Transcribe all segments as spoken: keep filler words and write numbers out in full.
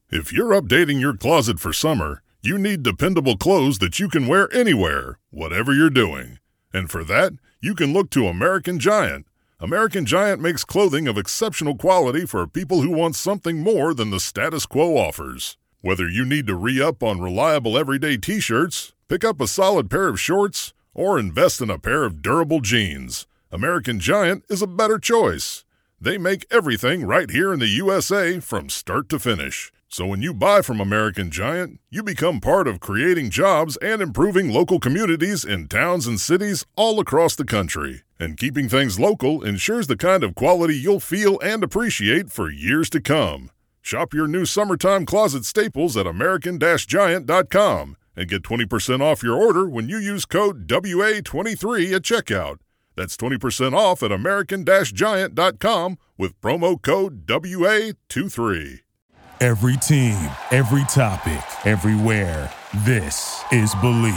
If you're updating your closet for summer, you need dependable clothes that you can wear anywhere, whatever you're doing. And for that, you can look to American Giant. American Giant makes clothing of exceptional quality for people who want something more than the status quo offers. Whether you need to re-up on reliable everyday t-shirts, pick up a solid pair of shorts, or invest in a pair of durable jeans, American Giant is a better choice. They make everything right here in the U S A from start to finish. So when you buy from American Giant, you become part of creating jobs and improving local communities in towns and cities all across the country. And keeping things local ensures the kind of quality you'll feel and appreciate for years to come. Shop your new summertime closet staples at American Giant dot com and get twenty percent off your order when you use code W A twenty-three at checkout. That's twenty percent off at American Giant dot com with promo code W A twenty-three. Every team, every topic, everywhere. This is Believe.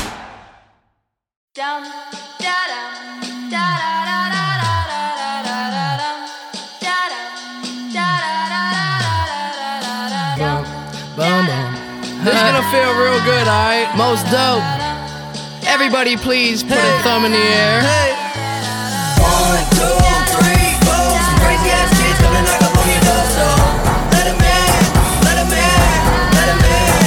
Down, da da da da da da da da da da da da Boom, boom. This is gonna feel real good, alright? Most dope. Everybody, please put a thumb in the air. One, two, three, four. Some crazy ass kids coming knock up on your door, so let 'em in, let 'em in, let 'em in.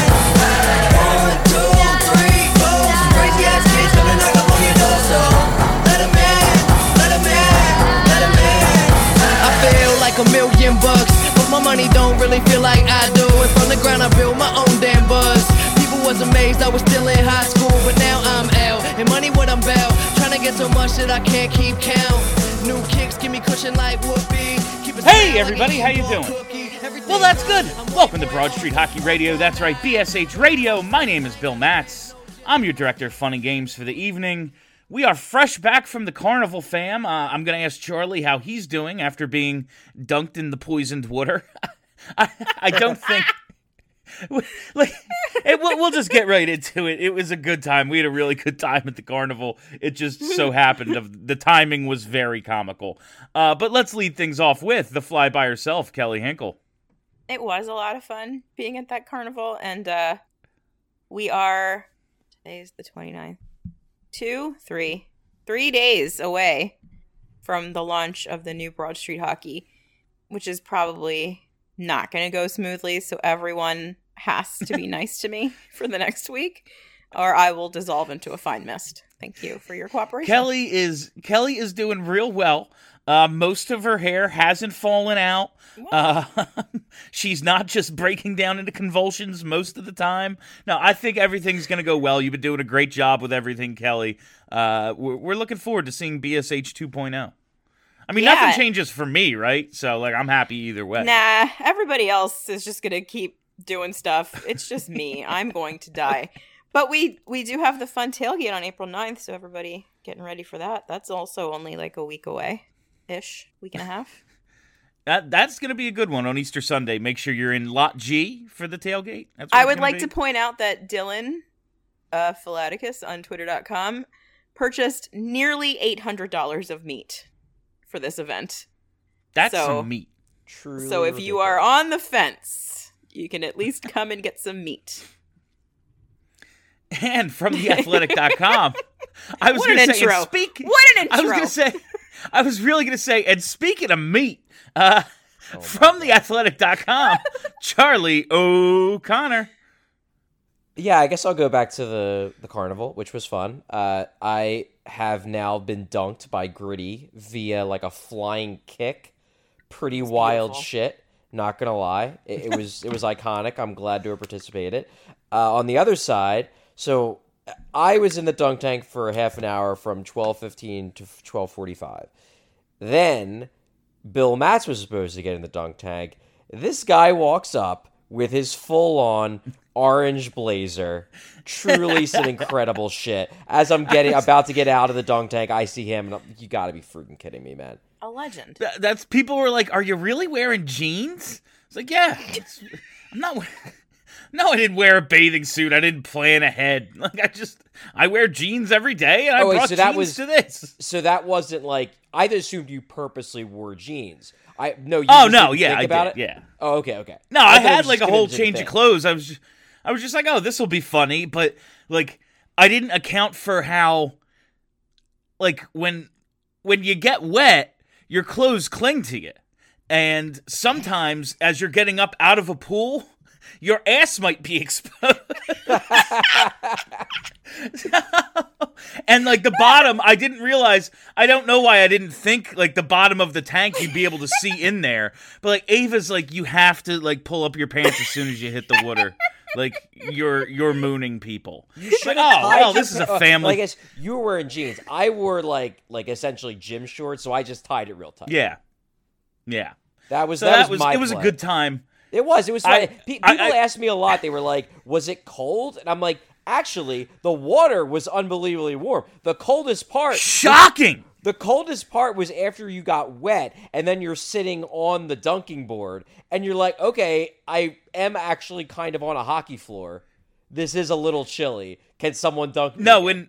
One, two, three, four. Some crazy ass kids coming knock up on your door, so let 'em in, let 'em in, let 'em in. I feel like a million bucks, but my money don't really feel like I do. And from the ground I build my own damn buzz. People was amazed I was still in high school, but now I'm out. And money what I'm about, trying to get so much that I can't keep count. New kicks give me cushion like whoopee. Hey everybody, how you doing? Well, that's good. Welcome to Broad Street Hockey Radio. That's right, B S H Radio. My name is Bill Matz. I'm your director of fun and games for the evening. We are fresh back from the carnival, fam. Uh, I'm going to ask Charlie how he's doing after being dunked in the poisoned water. I, I don't think... like, it, we'll, we'll just get right into it. It was a good time. We had a really good time at the carnival. It just so happened of the timing was very comical. Uh, but let's lead things off with the fly by herself, Kelly Hinkle. It was a lot of fun being at that carnival, and uh, we are, today's the twenty-ninth, two, three, three days away from the launch of the new Broad Street Hockey, which is probably not going to go smoothly, so everyone has to be nice to me for the next week, or I will dissolve into a fine mist. Thank you for your cooperation. Kelly is Kelly is doing real well. Uh, most of her hair hasn't fallen out. Uh, she's not just breaking down into convulsions most of the time. No, I think everything's going to go well. You've been doing a great job with everything, Kelly. Uh, we're, we're looking forward to seeing B S H two point oh. I mean, Yeah. nothing changes for me, right? So, like, I'm happy either way. Nah, everybody else is just going to keep doing stuff. It's just me. I'm going to die. But we we do have the fun tailgate on April ninth, so everybody getting ready for that. That's also only like a week away-ish, week and a half. That That's going to be a good one on Easter Sunday. Make sure you're in Lot G for the tailgate. That's what I it's would gonna like be. to point out that Dylan uh, Philaticus on twitter dot com purchased nearly eight hundred dollars of meat for this event. That's so- some meat. Truly So if you are on the fence, you can at least come and get some meat. And from the athletic dot com, I was What going an to say, intro. and speak, What an I was intro. going to say, I was really going to say, and speaking of meat, uh, Oh from the athletic dot com, Charlie O'Connor. Yeah, I guess I'll go back to the, the carnival, which was fun. Uh, I have now been dunked by Gritty via like a flying kick. Pretty wild beautiful. shit. Not gonna lie, it, it was it was iconic. I'm glad to have participated. Uh, on the other side, so I was in the dunk tank for half an hour from twelve fifteen to twelve forty-five. Then Bill Matz was supposed to get in the dunk tank. This guy walks up with his full-on orange blazer. Truly some incredible shit. As I'm getting about to get out of the dunk tank, I see him, and I'm, you gotta be freaking kidding me, man. A legend. Th- That's people were like, "Are you really wearing jeans?" It's like, yeah, it's, I'm not. we- No, I didn't wear a bathing suit. I didn't plan ahead. Like I just, I wear jeans every day, and I Oh, wait, brought so that jeans was- to this. So that wasn't like, I assumed you purposely wore jeans. I no. You Oh just no, didn't yeah, think I about did, it. yeah. Oh, okay, okay. No, I, thought it had was like just a whole gonna be the change thing. of clothes. I was, just, I was just like, oh, this will be funny, but like, I didn't account for how, like, when when you get wet, your clothes cling to you, and sometimes as you're getting up out of a pool, your ass might be exposed. And like the bottom, I didn't realize, I don't know why I didn't think like the bottom of the tank you'd be able to see in there. But like Ava's like, you have to like pull up your pants as soon as you hit the water. Like you're you're mooning people. You Like, should oh, have tied well, your this is a pa- uh, family. Well, I guess you were wearing jeans. I wore like like essentially gym shorts, so I just tied it real tight. Yeah. Yeah. That was So that, that was, was my it was a play. good time. It was. It was. I- Fun. Pe- I- People I- asked me a lot. They were like, "Was it cold?" And I'm like, "Actually, the water was unbelievably warm. The coldest part, Shocking. the coldest part was after you got wet, and then you're sitting on the dunking board, and you're like, okay, I am actually kind of on a hockey floor. This is a little chilly. Can someone dunk me?" No, when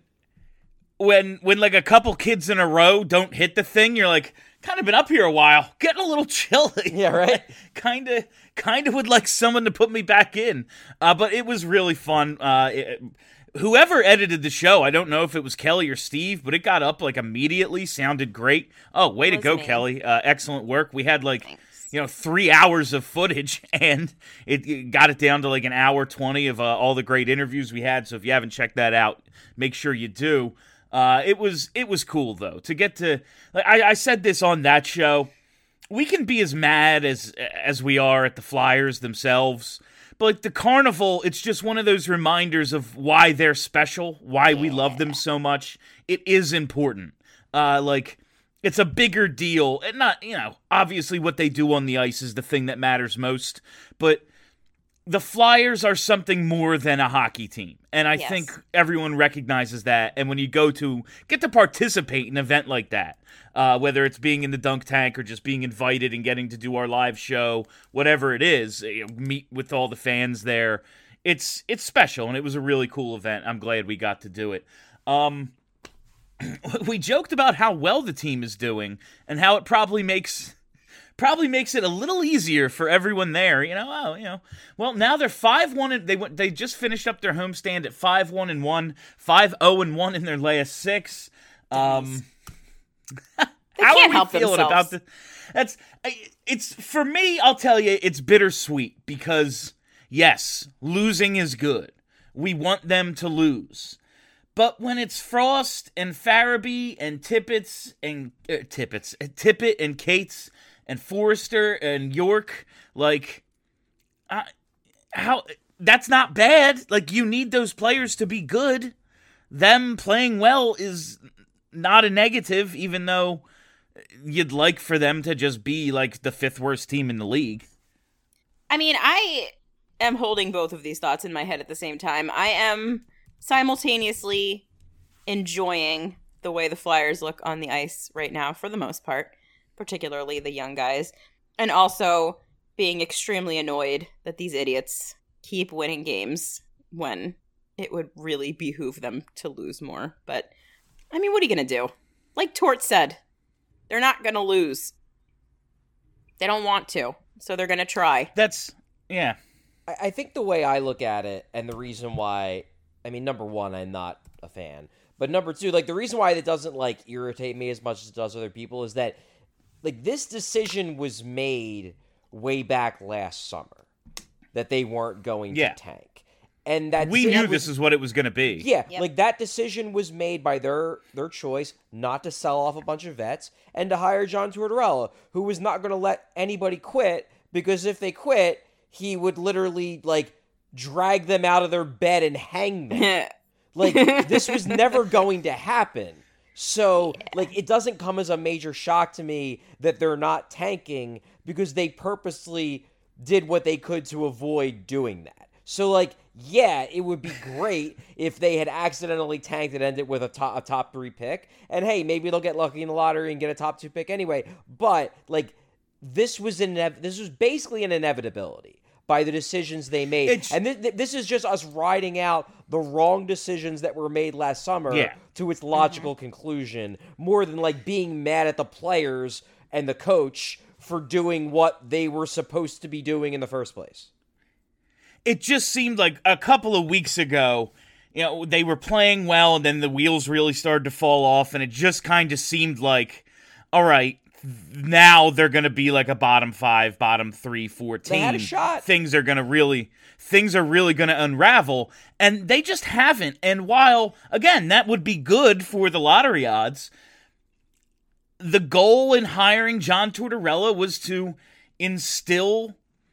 when when like a couple kids in a row don't hit the thing, you're like, kind of been up here a while, getting a little chilly. Yeah, right? kind of kind of would like someone to put me back in. Uh, but it was really fun. Uh, it, whoever edited the show, I don't know if it was Kelly or Steve, but it got up like immediately, sounded great. Oh, way It to was go, me. Kelly. Uh, excellent work. We had like Thanks. you know, three hours of footage, and it, it got it down to like an hour twenty of uh, all the great interviews we had. So if you haven't checked that out, make sure you do. Uh, it was it was cool though to get to. Like, I, I said this on that show. We can be as mad as as we are at the Flyers themselves, but like the Carnival, it's just one of those reminders of why they're special, why we love them so much. It is important. Uh, like. It's a bigger deal, and not, you know, obviously what they do on the ice is the thing that matters most, but the Flyers are something more than a hockey team, and I Yes. think everyone recognizes that, and when you go to get to participate in an event like that, uh, whether it's being in the dunk tank or just being invited and getting to do our live show, whatever it is, you know, meet with all the fans there, it's it's special, and it was a really cool event. I'm glad we got to do it. Um... We joked about how well the team is doing and how it probably makes probably makes it a little easier for everyone there. You know, oh, you know. Well, now they're five one and they went they just finished up their homestand at five one and one, five oh and one in their last six. Um How can't are we help feeling themselves. about the That's it's for me, I'll tell you, it's bittersweet because yes, losing is good. We want them to lose. But when it's Frost and Farabee and Tippett's and uh, Tippett's, Tippett and Cates and Forrester and York, like, uh, how that's not bad. Like, you need those players to be good. Them playing well is not a negative, even though you'd like for them to just be like the fifth worst team in the league. I mean, I am holding both of these thoughts in my head at the same time. I am simultaneously enjoying the way the Flyers look on the ice right now for the most part, particularly the young guys, and also being extremely annoyed that these idiots keep winning games when it would really behoove them to lose more. But, I mean, what are you going to do? Like Tort said, they're not going to lose. They don't want to, so they're going to try. That's, yeah. I, I think the way I look at it, and the reason why, I mean, number one, I'm not a fan, but number two, like the reason why it doesn't like irritate me as much as it does other people is that, like, this decision was made way back last summer that they weren't going Yeah. to tank, and that We decision knew was- this is what it was going to be. Yeah, Yep. like that decision was made by their their choice not to sell off a bunch of vets and to hire John Tortorella, who was not going to let anybody quit, because if they quit, he would literally like drag them out of their bed and hang them. Like, this was never going to happen. So, like, it doesn't come as a major shock to me that they're not tanking, because they purposely did what they could to avoid doing that. So, like, yeah, it would be great if they had accidentally tanked and ended with a top, a top three pick. And, hey, maybe they'll get lucky in the lottery and get a top two pick anyway. But, like, this was an this was basically an inevitability by the decisions they made. It's- and th- th- this is just us riding out the wrong decisions that were made last summer Yeah. to its logical conclusion, more than like being mad at the players and the coach for doing what they were supposed to be doing in the first place. It just seemed like a couple of weeks ago, you know, they were playing well, and then the wheels really started to fall off, and it just kind of seemed like, all right, now they're going to be like a bottom five, bottom three, four team. They had a shot. Things are going to really, things are really going to unravel, and they just haven't. And while, again, that would be good for the lottery odds, the goal in hiring John Tortorella was to instill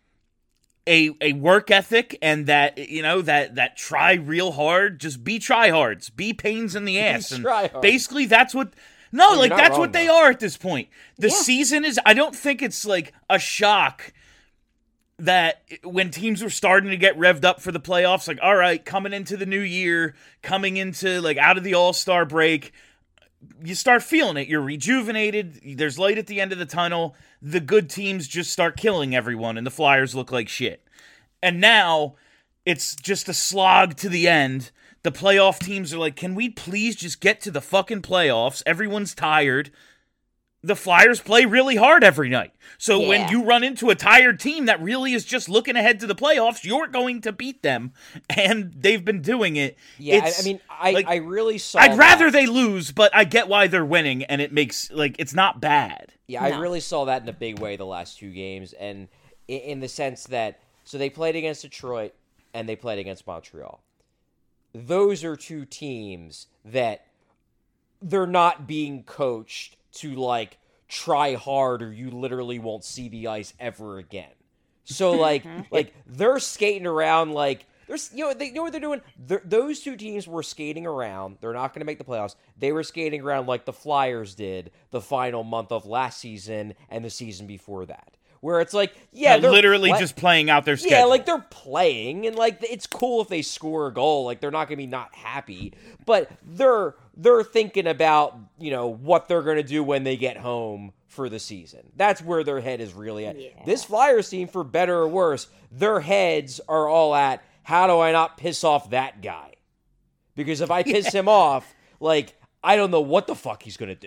a a work ethic and that, you know, that that try real hard, just be tryhards, be pains in the ass. And tryhards. basically that's what No, Well, like you're not that's wrong, what they though. are at this point. The Yeah. season is I don't think it's like a shock that when teams were starting to get revved up for the playoffs, like, all right, coming into the new year, coming into like out of the All-Star break, you start feeling it. You're rejuvenated. There's light at the end of the tunnel. The good teams just start killing everyone, and the Flyers look like shit. And now it's just a slog to the end. The playoff teams are like, can we please just get to the fucking playoffs? Everyone's tired. The Flyers play really hard every night. So Yeah. when you run into a tired team that really is just looking ahead to the playoffs, you're going to beat them. And they've been doing it. Yeah, I, It's- I mean, I, like, I really saw. I'd rather that. they lose, but I get why they're winning, and it makes, like, it's not bad. Yeah, I No. really saw that in a big way the last two games, and in, in the sense that so they played against Detroit and they played against Montreal. Those are two teams that they're not being coached to like try hard, or you literally won't see the ice ever again. So like, like they're skating around like. There's, you know, they you know what they're doing. They're, those two teams were skating around. They're not going to make the playoffs. They were skating around like the Flyers did the final month of last season and the season before that, where it's like, yeah, They're they're literally play- just playing out their schedule. yeah, like they're playing, and like it's cool if they score a goal. Like they're not going to be not happy, but they're they're thinking about, you know, what they're going to do when they get home for the season. That's where their head is really at. Yeah. This Flyers team, for better or worse, their heads are all at, how do I not piss off that guy? Because if I piss him off, like, I don't know what the fuck he's going to do.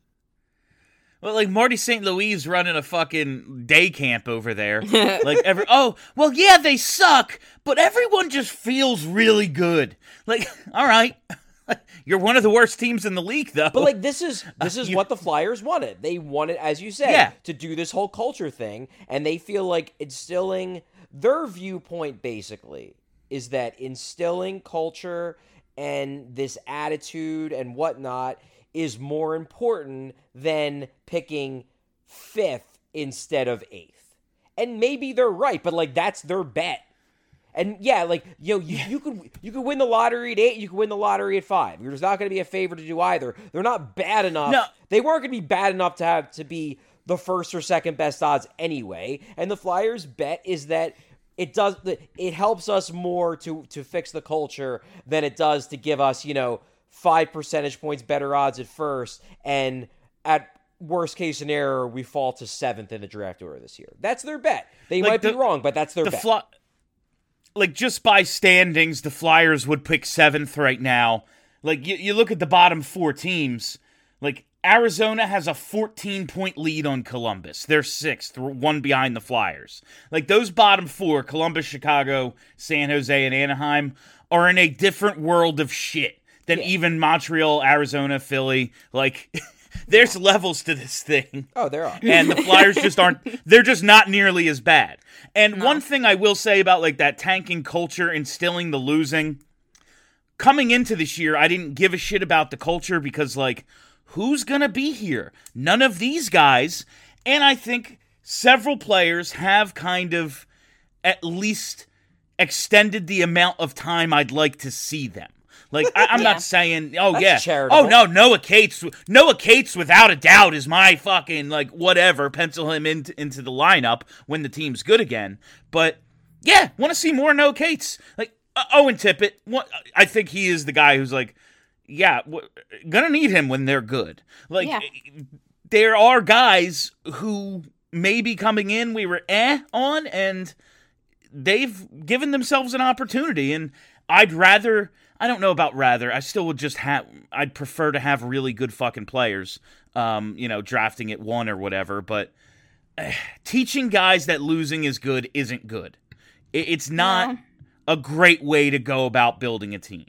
Well, like Marty Saint Louis is running a fucking day camp over there. Like every oh, well, yeah, they suck, but everyone just feels really good. Like, all right, you're one of the worst teams in the league, though. But like this is this is you- what the Flyers wanted. They wanted, as you said, Yeah. to do this whole culture thing, and they feel like instilling their viewpoint basically is that instilling culture and this attitude and whatnot is more important than picking fifth instead of eighth. And maybe they're right, but like that's their bet. And yeah, like, you know, you, you could you could win the lottery at eight, you could win the lottery at five. There's not going to be a favor to do either. They're not bad enough. No. They weren't going to be bad enough to have to be the first or second best odds anyway. And the Flyers' bet is that it does it helps us more to to fix the culture than it does to give us, you know, five percentage points better odds at first, and at worst case scenario, we fall to seventh in the draft order this year. That's their bet. They Like might the- be wrong, but that's their the bet. Fly- like just by standings, the Flyers would pick seventh right now. Like you, you look at the bottom four teams. Like Arizona has a fourteen point lead on Columbus. They're sixth, one behind the Flyers. Like those bottom four, Columbus, Chicago, San Jose, and Anaheim, are in a different world of shit than even Montreal, Arizona, Philly. Like there's levels to this thing. Oh, there are. And the Flyers just aren't, they're just not nearly as bad. And one thing I will say about like that tanking culture, instilling the losing, coming into this year, I didn't give a shit about the culture because like, who's going to be here? None of these guys. And I think several players have kind of at least extended the amount of time I'd like to see them. Like, I, I'm Yeah. not saying, oh, That's yeah. charitable. Oh, no, Noah Cates. Noah Cates, without a doubt, is my fucking, like, whatever. Pencil him into, into the lineup when the team's good again. But, yeah, want to see more Noah Cates. Like, uh, Owen Tippett, what, I think he is the guy who's like, yeah, w- gonna need him when they're good. Like, Yeah. there are guys who may be coming in we were eh on, and they've given themselves an opportunity. And I'd rather, I don't know about rather, I still would just have, I'd prefer to have really good fucking players, um, you know, drafting at one or whatever. But uh, teaching guys that losing is good isn't good. It, it's not No. a great way to go about building a team.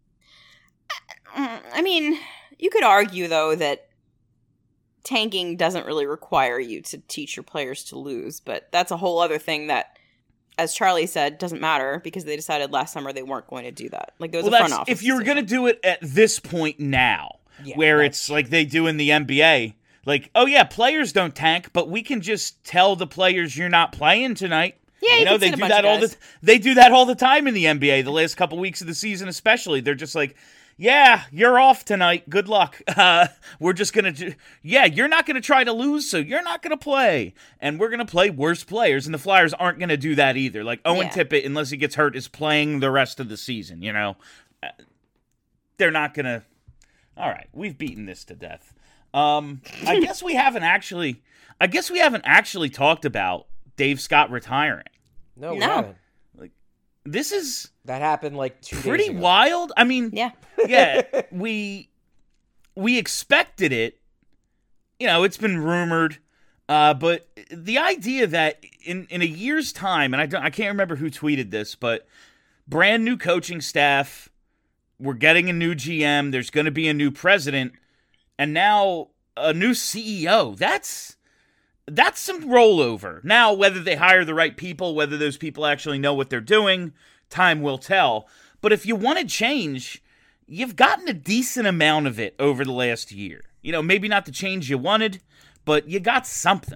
I mean, you could argue, though, that tanking doesn't really require you to teach your players to lose, but that's a whole other thing that, as Charlie said, doesn't matter because they decided last summer they weren't going to do that. Like, there was Well, a front that's, office. if you were going to do it at this point now, Yeah, where that's- it's like they do in the N B A, like, oh yeah, players don't tank, but we can just tell the players you're not playing tonight. Yeah, you you know can they sit a do bunch that of all the guys. they do that all the time in the N B A. The last couple weeks of the season, especially, they're just like, yeah, you're off tonight. Good luck. Uh, we're just gonna, do, yeah, you're not gonna try to lose, so you're not gonna play, and we're gonna play worse players. And the Flyers aren't gonna do that either. Like Owen Yeah. Tippett, unless he gets hurt, is playing the rest of the season. You know, Uh, they're not gonna. All right, we've beaten this to death. Um, I guess we haven't actually. I guess we haven't actually talked about Dave Scott retiring. No, we No. haven't. This is That happened like two pretty days ago. wild. I mean, Yeah. yeah, we we expected it. You know, it's been rumored, uh, but the idea that in, in a year's time, and I don't, I can't remember who tweeted this, but brand new coaching staff, we're getting a new G M. There's going to be a new president, and now a new C E O. That's that's some rollover. Now, whether they hire the right people, whether those people actually know what they're doing, time will tell. But if you wanted change, you've gotten a decent amount of it over the last year. You know, maybe not the change you wanted, but you got something.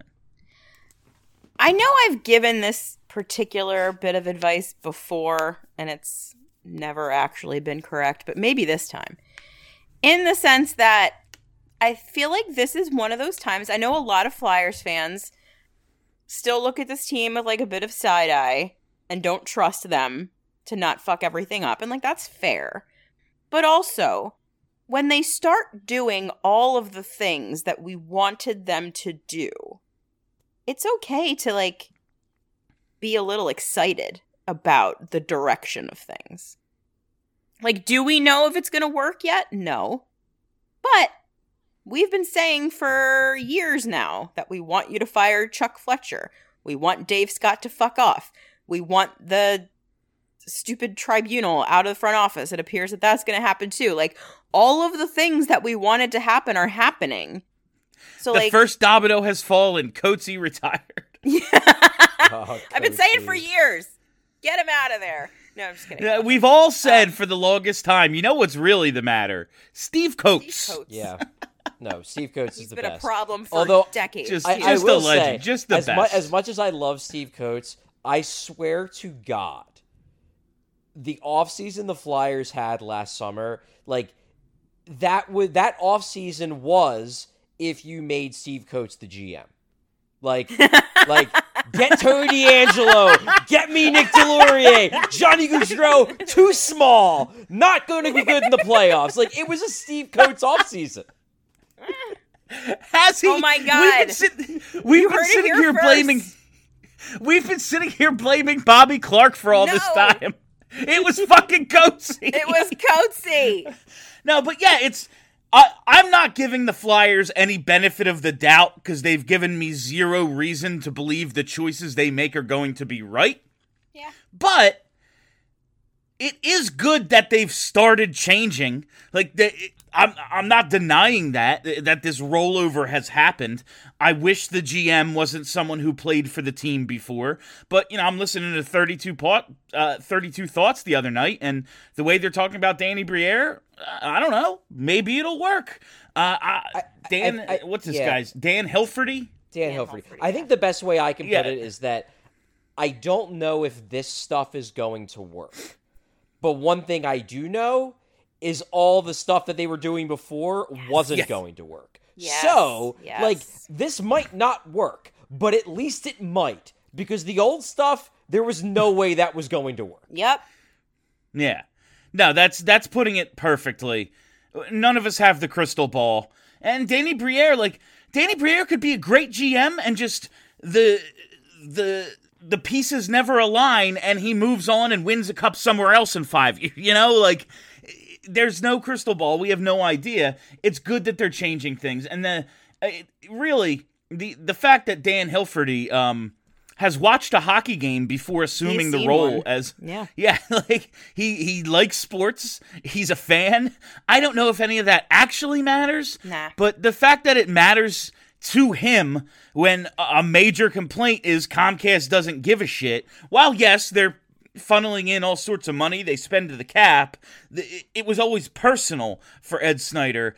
I know I've given this particular bit of advice before, and it's never actually been correct, but maybe this time. In the sense that I feel like this is one of those times. I know a lot of Flyers fans still look at this team with like a bit of side eye and don't trust them to not fuck everything up. And like, that's fair. But also, when they start doing all of the things that we wanted them to do, it's okay to like be a little excited about the direction of things. Like, do we know if it's going to work yet? No. But we've been saying for years now that we want you to fire Chuck Fletcher. We want Dave Scott to fuck off. We want the stupid tribunal out of the front office. It appears that that's going to happen too. Like, all of the things that we wanted to happen are happening. So, The like, first domino has fallen. Coatsy retired. Oh, I've been saying for Coatsy. years, get him out of there. No, I'm just kidding. Yeah, we've all said Um, for the longest time, you know what's really the matter? Steve Coates. Steve Coates. Yeah. No, Steve Coates is He's the been best. a problem for Although, decades. just- I, too. I Just a will legend, say, just the as, mu- best. as much as I love Steve Coates, I swear to God, the offseason the Flyers had last summer, like that would that offseason was if you made Steve Coates the G M. Like, like get Tony D'Angelo, get me Nick Delorier, Johnny Gaudreau, too small, not going to be good in the playoffs. Like, it was a Steve Coates offseason. Has he? Oh my We've God. been, sit- we've You been heard it sitting here here first. blaming. We've been sitting here blaming Bobby Clark for all this No. time. It was fucking Coatsy. It was Coatsy. No, but yeah, it's. I, I'm not giving the Flyers any benefit of the doubt because they've given me zero reason to believe the choices they make are going to be right. Yeah. But it is good that they've started changing. Like, the, I'm, I'm not denying that, that this rollover has happened. I wish the G M wasn't someone who played for the team before. But, you know, I'm listening to thirty-two, pot, uh, thirty-two Thoughts the other night, and the way they're talking about Danny Briere, I don't know. Maybe it'll work. Uh, I, Dan, I- I- what's this yeah. guy's? Dan Hilferty? Dan, Dan Hilferty. Hilferty, I yeah. think the best way I can Yeah. put it is that I don't know if this stuff is going to work. But one thing I do know is all the stuff that they were doing before wasn't Yes. going to work. Yes. So, Yes. like, this might not work, but at least it might. Because the old stuff, there was no way that was going to work. Yep. Yeah. No, that's that's putting it perfectly. None of us have the crystal ball. And Danny Briere, like, Danny Briere could be a great G M and just the the the pieces never align and he moves on and wins a cup somewhere else in five years. You know, like, there's no crystal ball. We have no idea. It's good that they're changing things. And the it, really, the the fact that Dan Hilferty um has watched a hockey game before assuming He's the seen role one. as Yeah. yeah, like he he likes sports. He's a fan. I don't know if any of that actually matters. Nah. But the fact that it matters to him when a major complaint is Comcast doesn't give a shit. While yes, they're funneling in all sorts of money, they spend to the cap. It was always personal for Ed Snyder.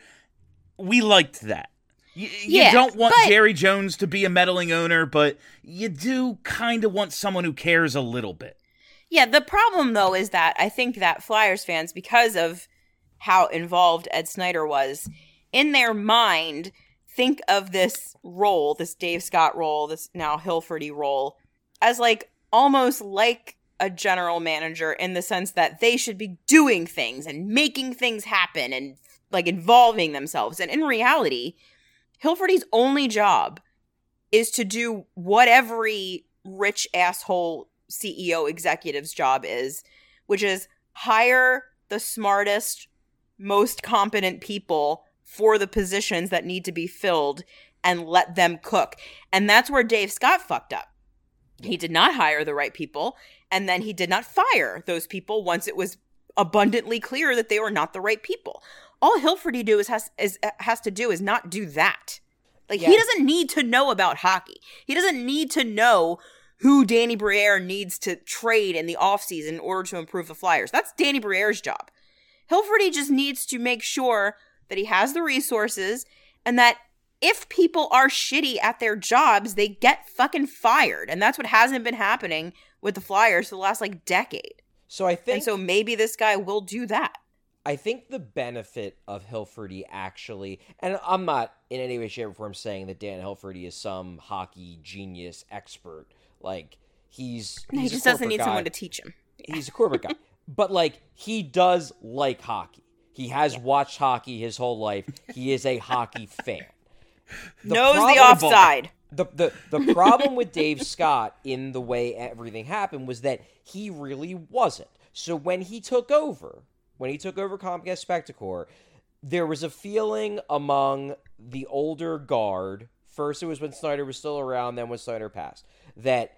We liked that. You, you Yeah, don't want but- Jerry Jones to be a meddling owner, but you do kind of want someone who cares a little bit. Yeah, the problem though is that I think that Flyers fans, because of how involved Ed Snyder was, in their mind, think of this role, this Dave Scott role, this now Hilferty role, as like almost like a general manager in the sense that they should be doing things and making things happen and like involving themselves. And in reality, Hilferty's only job is to do what every rich asshole C E O executive's job is, which is hire the smartest, most competent people for the positions that need to be filled and let them cook. And that's where Dave Scott fucked up. He did not hire the right people, and then he did not fire those people once it was abundantly clear that they were not the right people. All Hilferty do is has is has to do is not do that. Like, he Yeah. doesn't need to know about hockey. He doesn't need to know who Danny Briere needs to trade in the offseason in order to improve the Flyers. That's Danny Briere's job. Hilferty just needs to make sure that he has the resources and that if people are shitty at their jobs, they get fucking fired. And that's what hasn't been happening with the Flyers for the last, like, decade. So I think And so maybe this guy will do that. I think the benefit of Hilferty actually, and I'm not in any way, shape, or form saying that Dan Hilferty is some hockey genius expert. Like, he's, He he's a just doesn't corporate need guy. someone to teach him. He's a corporate guy. But, like, he does like hockey. He has watched hockey his whole life. He is a hockey fan. The Knows problem- the offside. The, the the problem with Dave Scott in the way everything happened was that he really wasn't. So when he took over, when he took over Comcast Spectacor, there was a feeling among the older guard, first it was when Snyder was still around, then when Snyder passed, that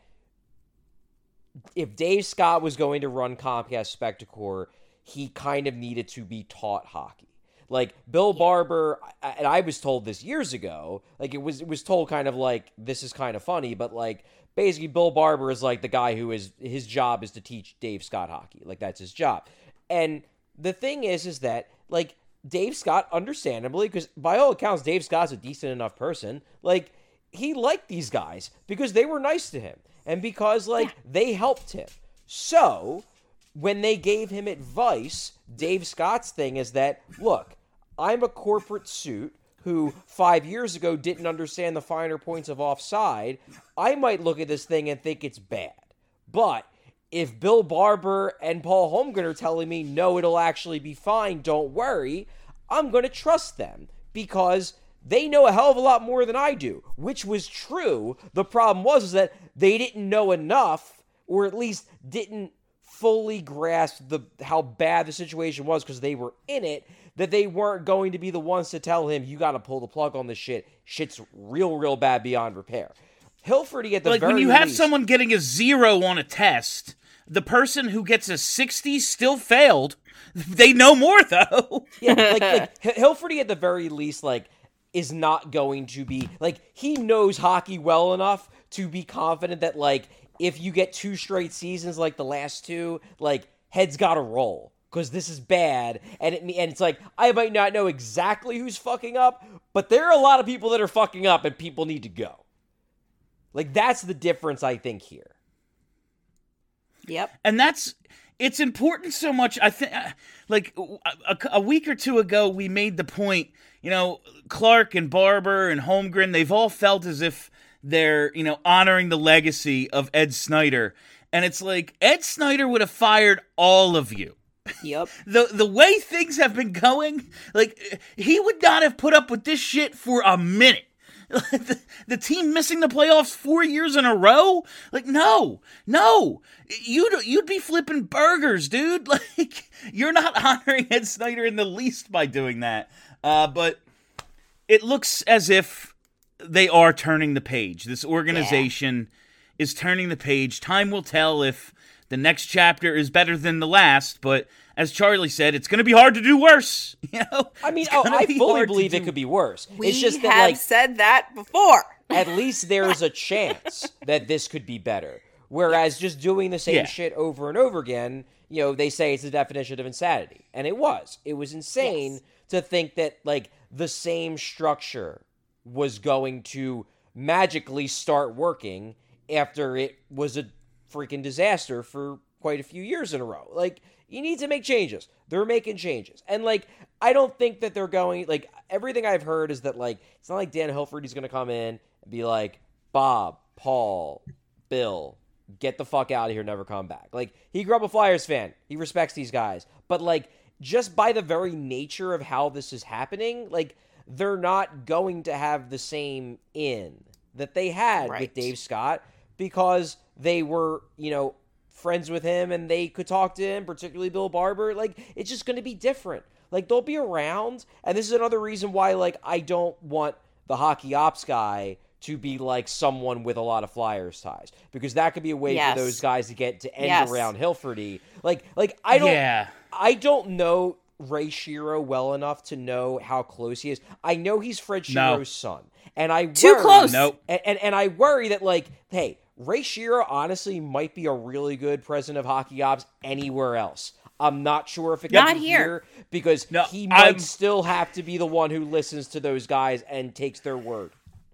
if Dave Scott was going to run Comcast Spectacor, he kind of needed to be taught hockey. Like, Bill Barber, and I was told this years ago, like, it was it was told kind of like, this is kind of funny, but, like, basically Bill Barber is, like, the guy who is, his job is to teach Dave Scott hockey. Like, that's his job. And the thing is, is that, like, Dave Scott, understandably, because by all accounts, Dave Scott's a decent enough person, like, he liked these guys because they were nice to him and because, like, yeah. they helped him. So, when they gave him advice, Dave Scott's thing is that, look, I'm a corporate suit who five years ago didn't understand the finer points of offside. I might look at this thing and think it's bad. But if Bill Barber and Paul Holmgren are telling me, no, it'll actually be fine, don't worry, I'm going to trust them because they know a hell of a lot more than I do, which was true. The problem was is that they didn't know enough, or at least didn't fully grasp the how bad the situation was because they were in it, that they weren't going to be the ones to tell him, you got to pull the plug on this shit. Shit's real, real bad beyond repair. Hilferty at the like very when you least, have someone getting a zero on a test, the person who gets a sixty still failed. They know more though. yeah, like, like Hilferty at the very least, like, is not going to be like he knows hockey well enough to be confident that, like, if you get two straight seasons like the last two, like, heads got to roll. Because this is bad, and it and it's like, I might not know exactly who's fucking up, but there are a lot of people that are fucking up, and people need to go. Like, that's the difference, I think, here. Yep. And that's, it's important so much, I think, like, a, a week or two ago, we made the point, you know, Clark and Barber and Holmgren, they've all felt as if they're, you know, honoring the legacy of Ed Snyder. And it's like, Ed Snyder would have fired all of you. Yep. The the way things have been going, like, he would not have put up with this shit for a minute. the, the team missing the playoffs four years in a row? Like, no, no. You'd, you'd be flipping burgers, dude. Like, you're not honoring Ed Snyder in the least by doing that. Uh, but it looks as if they are turning the page. This organization yeah. is turning the page. Time will tell if the next chapter is better than the last, but as Charlie said, it's going to be hard to do worse. You know, I mean, oh, I fully believe it could be worse. We it's just that, have like, said that before. At least there's a chance that this could be better. Whereas just doing the same yeah. shit over and over again, you know, they say it's the definition of insanity. And it was. It was insane Yes. to think that, like, the same structure was going to magically start working after it was a freaking disaster for quite a few years in a row. Like, you need to make changes. They're making changes. And, like, I don't think that they're going, like, everything I've heard is that, like, it's not like Dan Hilford is going to come in and be like, Bob, Paul, Bill, get the fuck out of here, never come back. Like, he grew up a Flyers fan. He respects these guys. But, like, just by the very nature of how this is happening, like, they're not going to have the same in that they had Right. with Dave Scott because they were, you know, friends with him and they could talk to him, particularly Bill Barber. Like, it's just going to be different. Like, they'll be around. And this is another reason why, like, I don't want the hockey ops guy to be like someone with a lot of Flyers ties, because that could be a way Yes. for those guys to get to end Yes. around Hilferty. Like, like I don't, Yeah. I don't know Ray Shero well enough to know how close he is. I know he's Fred No. Shero's son, and I Too worry, close. Nope. and, and and I worry that, like, hey, Ray Shero honestly might be a really good president of hockey ops anywhere else. I'm not sure if it Not can be here. here because No, he might I'm- still have to be the one who listens to those guys and takes their word.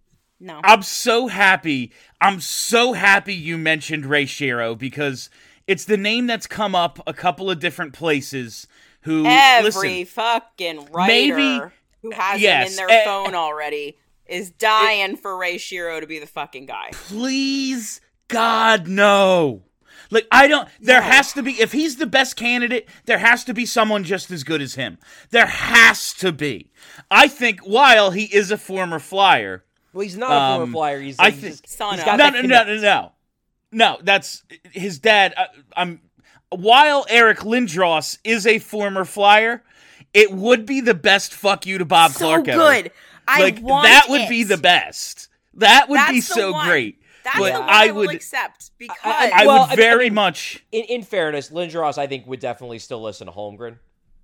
No. I'm so happy. I'm so happy you mentioned Ray Shero because it's the name that's come up a couple of different places. Who Every listen? fucking writer maybe- who has yes, him in their eh, phone already is dying for Ray Shero to be the fucking guy. Please, God, no. Like, I don't, there has to be, if he's the best candidate, there has to be someone just as good as him. There has to be. I think while he is a former Flyer. Well, he's not a Um, former Flyer. He's, I he's think- just, Son he's of. got No, that no, no, connect. no, no. No, that's his dad. I, I'm, while Eric Lindros is a former Flyer, it would be the best fuck you to Bob So Clark ever. good. I Like, want that would it. be the best. That would That's be the so one. great. That's but the one I I, will would, accept because I- I Well, I would mean- very I mean- much. In, in fairness, Lindros, I think, would definitely still listen to Holmgren.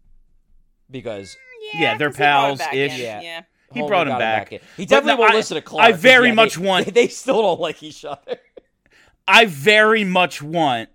Because Yeah, they're 'cause he brought him pals back ish. in. Yeah. Yeah. He Holmgren brought him got back. in. He But definitely no, won't I- listen to Clark. I 'cause, very yeah, much they, want- They, they still don't like each other. I very much want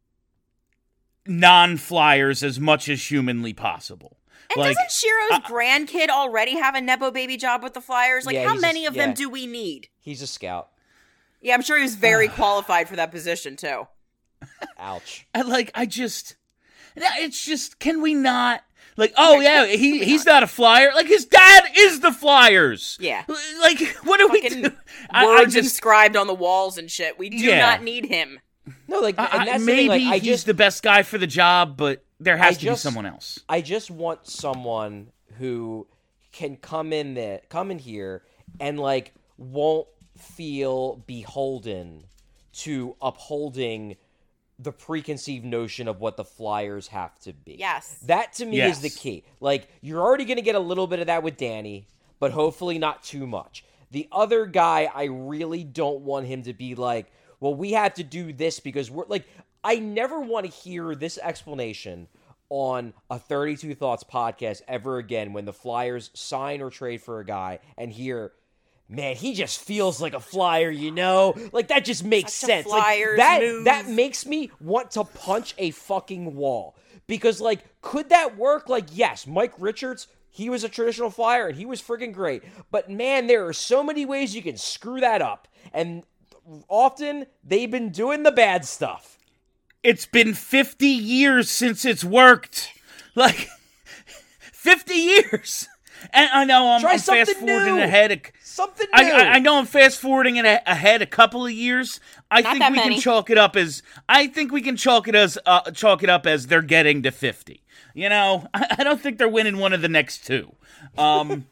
non-Flyers as much as humanly possible. And Like, doesn't Shiro's grandkid already have a Nepo baby job with the Flyers? Like, Yeah, how he's a- many of them yeah. do we need? He's a scout. Yeah, I'm sure he was very qualified for that position, too. Ouch. I like. I just. It's just. Can we not? Like, oh yeah, he he's not a Flyer. Like, his dad is the Flyers. Yeah. Like, what do we Fucking do? I, I Words just. inscribed on the walls and shit. We do Yeah. not need him. No, like, I, and I- that's the maybe thing, like, I he's just, the best guy for the job, but there has I to just- be someone else. I just want someone who can come in there, come in here, and like won't feel beholden to upholding the preconceived notion of what the Flyers have to be. Yes. That to me Yes. is the key. Like, you're already going to get a little bit of that with Danny, but hopefully not too much. The other guy, I really don't want him to be like, well, we had to do this because we're like, I never want to hear this explanation on a thirty-two Thoughts podcast ever again when the Flyers sign or trade for a guy and hear, man, he just feels like a Flyer, you know? Like, that just makes Such a sense. Like, Flyers that, move. that makes me want to punch a fucking wall. Because, like, could that work? Like, yes, Mike Richards, he was a traditional Flyer, and he was friggin' great. But, man, there are so many ways you can screw that up. And often, they've been doing the bad stuff. It's been fifty years since it's worked. Like, fifty years. And I know I'm, Try I'm something fast forwarding new. ahead. A, Something new. I, I, I know I'm fast forwarding it a, ahead a couple of years. I Not think that we many. can chalk it up as I think we can chalk it as uh, chalk it up as they're getting to fifty. You know, I, I don't think they're winning one of the next two. Um,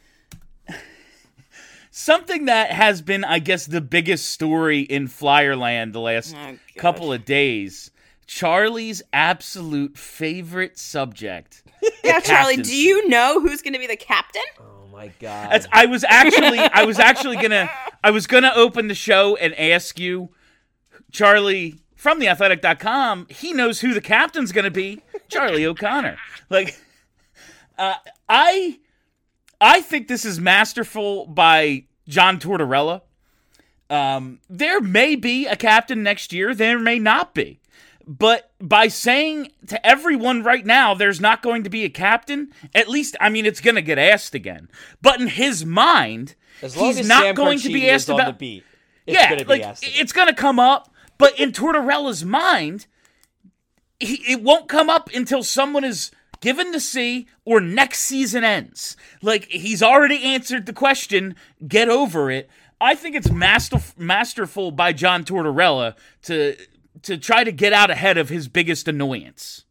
something that has been, I guess, the biggest story in Flyerland the last Oh, God. couple of days. Charlie's absolute favorite subject. Yeah, Charlie, captaincy. do you know who's going to be the captain? Oh my god! As I was actually, I was actually gonna, I was gonna open the show and ask you, Charlie from the athletic dot com. He knows who the captain's gonna be, Charlie O'Connor. Like, uh, I, I think this is masterful by John Tortorella. Um, there may be a captain next year. There may not be. But by saying to everyone right now there's not going to be a captain, at least, I mean, it's going to get asked again. But in his mind, as long he's as not Sam going to be asked on about... the beat, it's yeah, gonna be like, asked again. it's going to come up. But in Tortorella's mind, he, it won't come up until someone is given the C or next season ends. Like, he's already answered the question, get over it. I think it's master, masterful by John Tortorella to... to try to get out ahead of his biggest annoyance.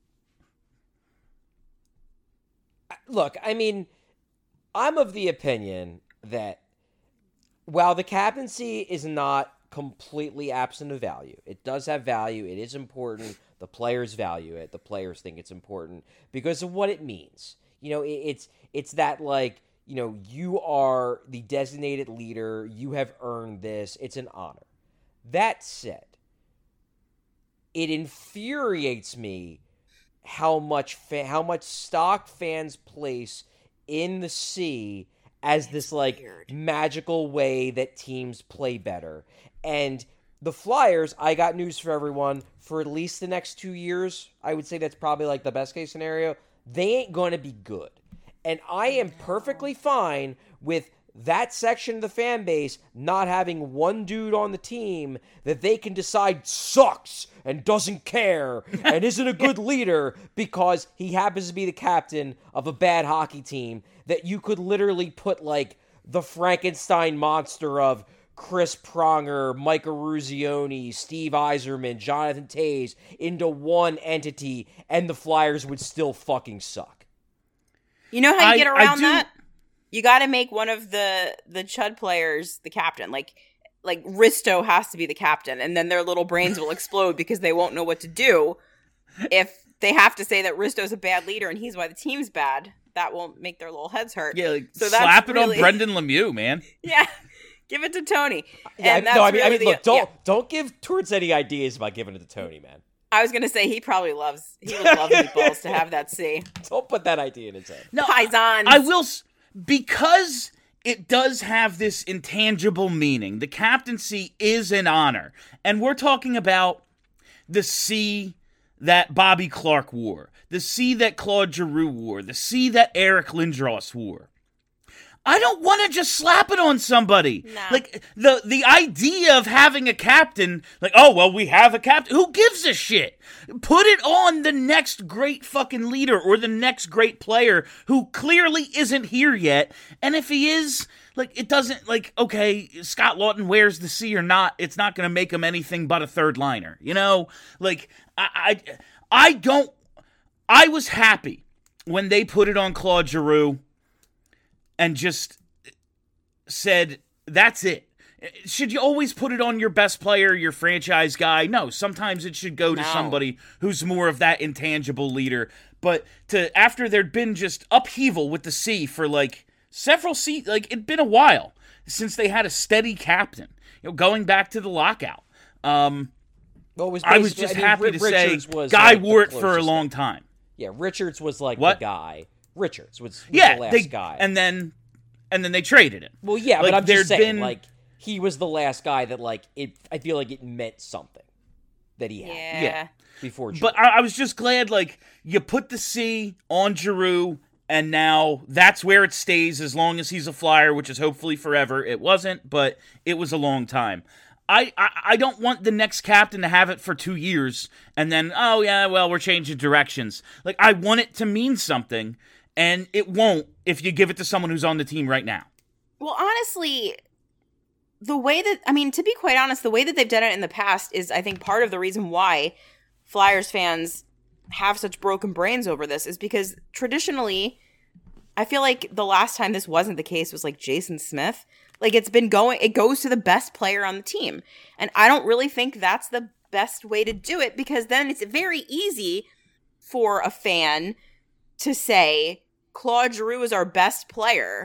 Look, I mean, I'm of the opinion that while the captaincy is not completely absent of value, it does have value, it is important, the players value it, the players think it's important because of what it means. You know, it, it's it's that, like, you know, you are the designated leader, you have earned this, it's an honor. That said, it infuriates me how much fa- how much stock fans place in the C as this like weird. magical way that teams play better. And the Flyers, I got news for everyone, for at least the next two years, I would say that's probably like the best case scenario, they ain't going to be good. And I am perfectly fine with that section of the fan base not having one dude on the team that they can decide sucks and doesn't care and isn't a good leader because he happens to be the captain of a bad hockey team that you could literally put like the Frankenstein monster of Chris Pronger, Mike Eruzione, Steve Yzerman, Jonathan Toews into one entity and the Flyers would still fucking suck. You know how you I- get I around do- that? You got to make one of the the Chud players the captain. Like like Risto has to be the captain, and then their little brains will explode because they won't know what to do if they have to say that Risto's a bad leader and he's why the team's bad. That will make their little heads hurt. Yeah, like, So that's slap it really- on Brendan Lemieux, man. Yeah, give it to Tony. Yeah, And I, no, I that's mean, I really mean, the- look, don't yeah. don't give Torts any ideas about giving it to Tony, man. I was gonna say he probably loves he would love meatballs to have that C. Don't put that idea in his head. No, Paisans. I will, s- because it does have this intangible meaning. The captaincy is an honor. And we're talking about the C that Bobby Clark wore, the C that Claude Giroux wore, the C that Eric Lindros wore. I don't want to just slap it on somebody. Nah. Like, the the idea of having a captain, like, oh, well, we have a captain. Who gives a shit? Put it on the next great fucking leader or the next great player who clearly isn't here yet. And if he is, like, it doesn't, like, okay, Scott Lawton wears the C or not, it's not going to make him anything but a third liner. You know? Like, I, I, I don't, I was happy when they put it on Claude Giroux and just said, that's it. Should you always put it on your best player, your franchise guy? No, sometimes it should go to No. somebody who's more of that intangible leader. But to after there'd been just upheaval with the C for like several se- like it'd been a while since they had a steady captain. You know, going back to the lockout. Um, Well, it was I was basically- just I mean, happy Ri- to say, Richards was, Guy like, the wore it for a closest long thing. time. Yeah, Richards was like What? the guy. Richards was, was Yeah, the last they guy. and then and then they traded him. well, yeah, like, but I'm just there'd saying, been- like, he was the last guy that, like, it. I feel like it meant something that he had Yeah. Yeah. before. But I, I was just glad, like, you put the C on Giroux, and now that's where it stays as long as he's a Flyer, which is hopefully forever. It wasn't, but it was a long time. I, I, I don't want the next captain to have it for two years, and then, oh, yeah, well, we're changing directions. Like, I want it to mean something, and it won't if you give it to someone who's on the team right now. Well, honestly, the way that, I mean, to be quite honest, the way that they've done it in the past is, I think, part of the reason why Flyers fans have such broken brains over this is because traditionally, I feel like the last time this wasn't the case was like Jason Smith. Like, it's been going, it goes to the best player on the team. And I don't really think that's the best way to do it because then it's very easy for a fan to say, Claude Giroux is our best player.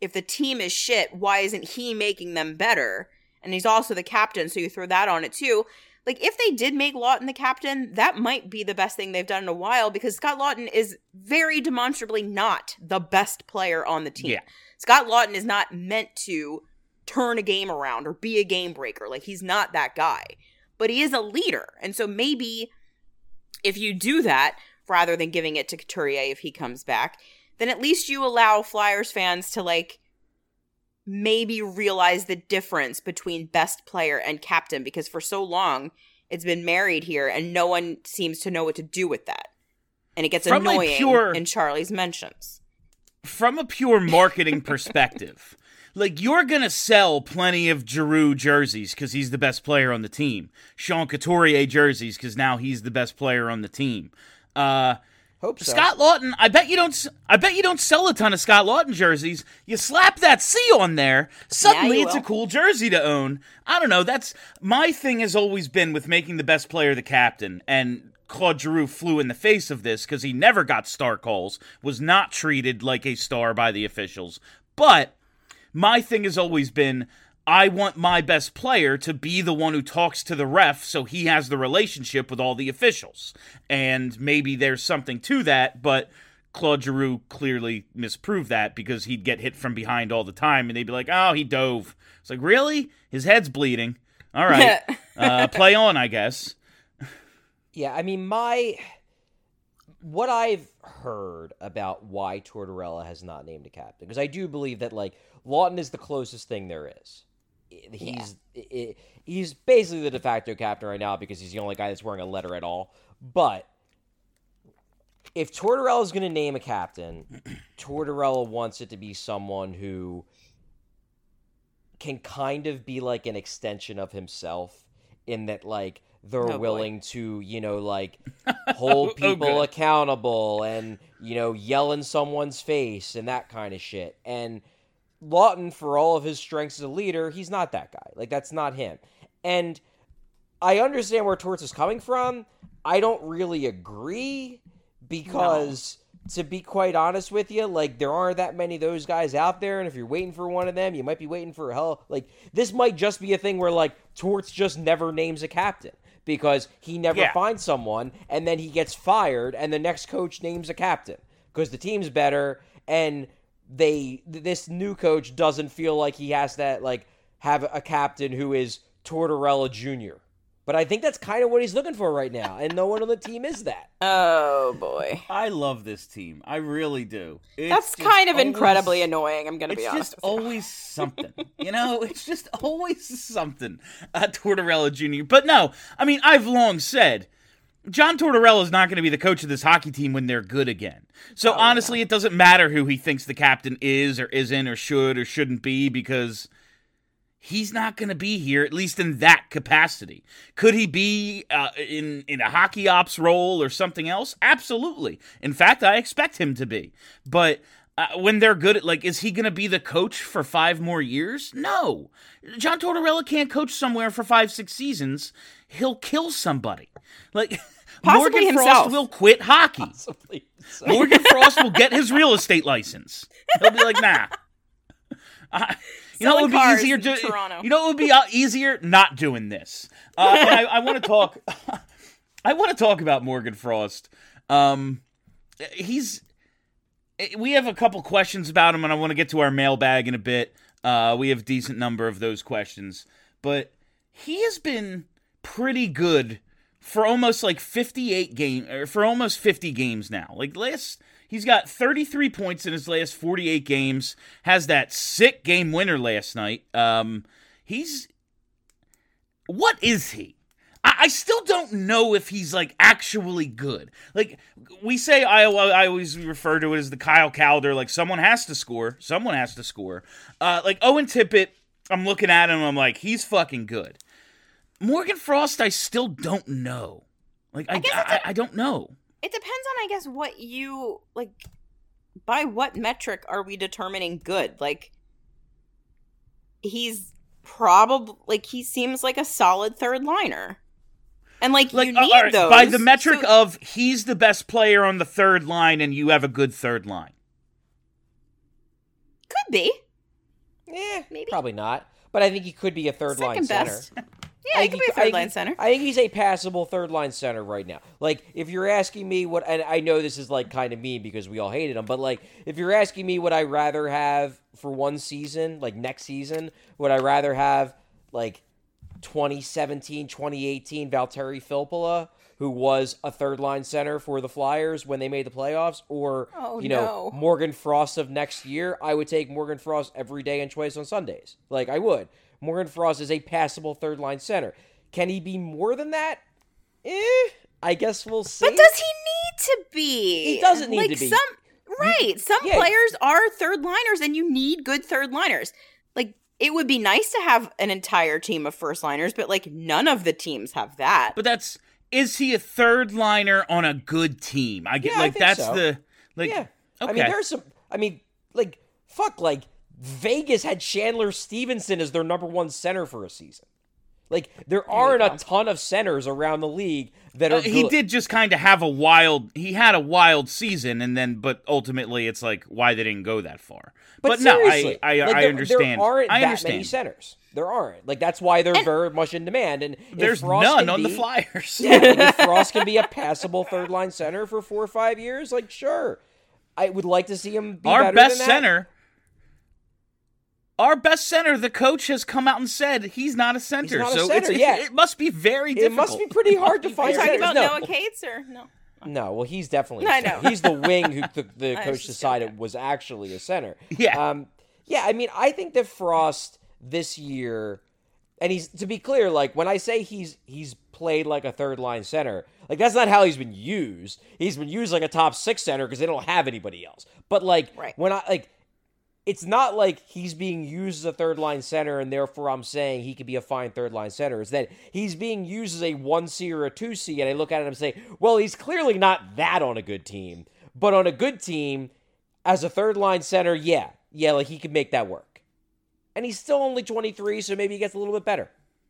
if the team is shit, why isn't he making them better? And he's also the captain, so you throw that on it too. Like, if they did make Lawton the captain, that might be the best thing they've done in a while, because Scott Lawton is very demonstrably not the best player on the team. Yeah. Scott Lawton is not meant to turn a game around or be a game breaker. Like, he's not that guy. But he is a leader. And so maybe if you do that, rather than giving it to Couturier if he comes back, then at least you allow Flyers fans to, like, maybe realize the difference between best player and captain, because for so long it's been married here and no one seems to know what to do with that. And it gets From a annoying pure- in Charlie's mentions. From a pure marketing perspective, like, you're going to sell plenty of Giroux jerseys because he's the best player on the team. Sean Couturier jerseys because now he's the best player on the team. Uh, Hope so. Scott Lawton, I bet you don't I bet you don't sell a ton of Scott Lawton jerseys. You slap that C on there, suddenly you it's will. a cool jersey to own. I don't know, that's my thing has always been with making the best player the captain, and Claude Giroux flew in the face of this because he never got star calls, was not treated like a star by the officials. But my thing has always been, I want my best player to be the one who talks to the ref so he has the relationship with all the officials. And maybe there's something to that, but Claude Giroux clearly misproved that because he'd get hit from behind all the time and they'd be like, oh, he dove. It's like, really? His head's bleeding. All right. uh, play on, I guess. Yeah, I mean, my... What I've heard about why Tortorella has not named a captain, because I do believe that, like, Lawton is the closest thing there is. He's yeah. he's basically the de facto captain right now because he's the only guy that's wearing a letter at all. But if Tortorella is going to name a captain, Tortorella wants it to be someone who can kind of be like an extension of himself in that, like, they're oh, willing boy. to, you know, like, hold people oh, accountable and, you know, yell in someone's face and that kind of shit. And Lawton, for all of his strengths as a leader, he's not that guy. Like, that's not him. And I understand where Torts is coming from. I don't really agree because, no. to be quite honest with you, like, there aren't that many of those guys out there, and if you're waiting for one of them, you might be waiting for a hell. Like, this might just be a thing where, like, Torts just never names a captain because he never yeah. finds someone, and then he gets fired, and the next coach names a captain because the team's better, and they this new coach doesn't feel like he has to, like, have a captain who is Tortorella Junior But I think that's kind of what he's looking for right now, and no one on the team is that. Oh, boy. I love this team. I really do. It's That's just kind of always, incredibly annoying, I'm going to be It's honest just with you. always something. You know, it's just always something. Uh, Tortorella Junior But no, I mean, I've long said, John Tortorella is not going to be the coach of this hockey team when they're good again. So Oh, honestly, yeah. it doesn't matter who he thinks the captain is or isn't or should or shouldn't be because he's not going to be here, at least in that capacity. Could he be uh, in, in a hockey ops role or something else? Absolutely. In fact, I expect him to be. But uh, when they're good at, like, is he going to be the coach for five more years? No. John Tortorella can't coach somewhere for five, six seasons. He'll kill somebody. Like, Possibly Morgan himself. Frost will quit hockey. Possibly so. Morgan Frost will get his real estate license. He'll be like, nah. I, you know, it Selling would be cars easier in to. Toronto. You know, it would be uh, easier not doing this. Uh, and I, I want to talk. I want to talk about Morgan Frost. Um, he's. We have a couple questions about him, and I want to get to our mailbag in a bit. Uh, we have a decent number of those questions, but he has been pretty good for almost like fifty-eight game, or for almost fifty games now. Like last. He's got thirty-three points in his last forty-eight games, has that sick game winner last night. Um, he's... What is he? I, I still don't know if he's, like, actually good. Like, we say, I, I always refer to it as the Kyle Calder, like, someone has to score. Someone has to score. Uh, like, Owen Tippett, I'm looking at him, I'm like, he's fucking good. Morgan Frost, I still don't know. Like, I, I guess it's I, a- I don't know. It depends on, I guess, what you, like, by what metric are we determining good? Like, he's probably, like, he seems like a solid third liner. And, like, Like, you uh, need all right, those. by the metric so- of he's the best player on the third line and you have a good third line. Could be. Eh, Maybe. probably not. But I think he could be a third line Second center. best. Yeah, I he think could be a I third think line he- center. I think he's a passable third line center right now. Like, if you're asking me what, and I know this is like kind of mean because we all hated him, but like, if you're asking me what I rather have for one season, like next season, would I rather have like twenty seventeen, twenty eighteen Valtteri Filppula, who was a third line center for the Flyers when they made the playoffs, or Oh, you know no. Morgan Frost of next year? I would take Morgan Frost every day and twice on Sundays. Like, I would. Morgan Frost is a passable third line center. Can he be more than that? Eh, I guess we'll see. But does he need to be? He doesn't need like to be. Some, right. Some yeah. players are third liners, and you need good third liners. Like, it would be nice to have an entire team of first liners, but like none of the teams have that. But that's is he a third liner on a good team? I get Yeah, I like think that's so. the like. yeah. Okay. I mean, there's some. I mean, like, fuck, like, Vegas had Chandler Stevenson as their number one center for a season. Like, there aren't a ton of centers around the league that are Uh, he good. did just kind of have a wild. He had a wild season, and then, but ultimately, it's like why they didn't go that far. But, no, seriously, I, I, like, I there, understand. There aren't I that understand. many centers. There aren't. Like, that's why they're very much in demand. And if There's Frost none can on the be- Flyers. Yeah, like, if Frost can be a passable third line center for four or five years, like, sure. I would like to see him be Our better best than that. center. Our best center, the coach has come out and said he's not a center. not a so center, it's, yeah. it must be very It difficult. must be pretty hard to Are find you talking centers. about No. Noah Cates or no? No, well, he's definitely. a I center. know. He's the wing who the, the I was coach just decided joking. was actually a center. Yeah. Um. Yeah. I mean, I think that Frost this year, and he's to be clear, like when I say he's he's played like a third line center, like that's not how he's been used. He's been used like a top six center because they don't have anybody else. But like Right. when I like. It's not like he's being used as a third line center and therefore I'm saying he could be a fine third line center. It's that he's being used as a one C or a two C, and I look at it and say, well, he's clearly not that on a good team. But on a good team, as a third line center, yeah. Yeah, like he could make that work. And he's still only twenty-three, so maybe he gets a little bit better.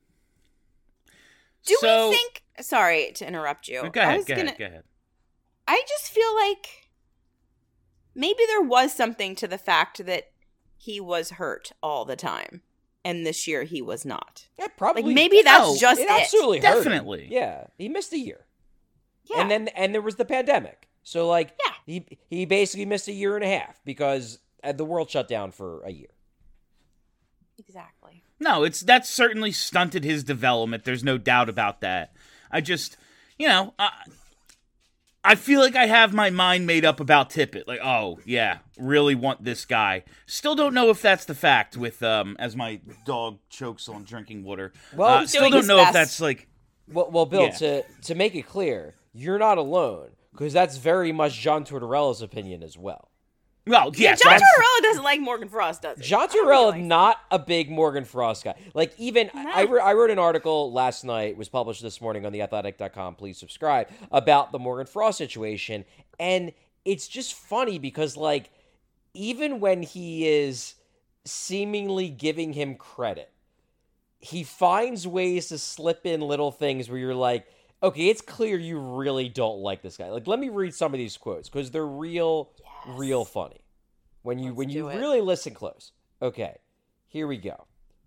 Do So- we think? Sorry to interrupt you. Go I ahead. was Go gonna, ahead. Go ahead. I just feel like maybe there was something to the fact that he was hurt all the time, and this year he was not. Yeah, probably. Like maybe that's Oh, just it it. absolutely hurt him. Definitely. Yeah, he missed a year. Yeah. And then and there was the pandemic. So like Yeah. he he basically missed a year and a half because uh, the world shut down for a year. Exactly. No, it's that's certainly stunted his development. There's no doubt about that. I just, you know, I, I feel like I have my mind made up about Tippett. Like, oh yeah, really want this guy. Still don't know if that's the fact. With um, as my dog chokes on drinking water. Well, uh, he's still doing don't his know if best. that's like. Well, well, Bill, Yeah. to to make it clear, you're not alone because that's very much John Tortorella's opinion as well. Well, Yeah, yes, John that's- Tortorella doesn't like Morgan Frost, does he? John I don't Tortorella, really like- not a big Morgan Frost guy. Like even I, re- I wrote an article last night, was published this morning on the athletic dot com. Please subscribe, about the Morgan Frost situation, and it's just funny because like even when he is seemingly giving him credit, he finds ways to slip in little things where you're like, okay, it's clear you really don't like this guy. Like, let me read some of these quotes because they're real, real funny. When you Let's when you do it. really listen close. Okay, here we go.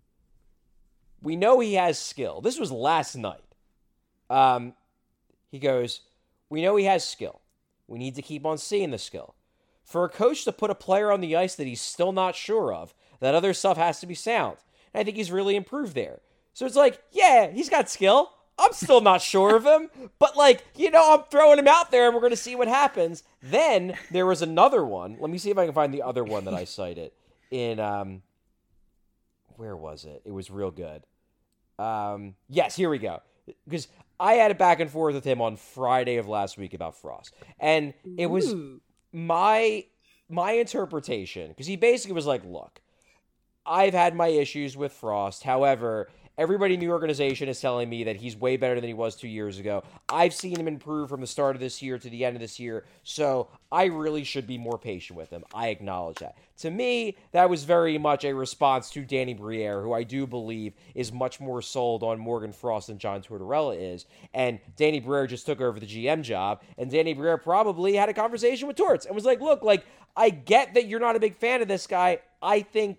We know he has skill. This was last night. Um, he goes, we know he has skill. We need to keep on seeing the skill. For a coach to put a player on the ice that he's still not sure of, that other stuff has to be sound. And I think he's really improved there. So it's like, yeah, he's got skill. I'm still not sure of him, but like, you know, I'm throwing him out there and we're going to see what happens. Then there was another one. Let me see if I can find the other one that I cited in, um, where was it? It was real good. Um, yes, here we go. Because I had a back and forth with him on Friday of last week about Frost. And it was my, my interpretation, because he basically was like, look, I've had my issues with Frost. However, everybody in the organization is telling me that he's way better than he was two years ago. I've seen him improve from the start of this year to the end of this year, so I really should be more patient with him. I acknowledge that. To me, that was very much a response to Danny Briere, who I do believe is much more sold on Morgan Frost than John Tortorella is. And Danny Briere just took over the G M job, and Danny Briere probably had a conversation with Torts and was like, look, like, I get that you're not a big fan of this guy. I think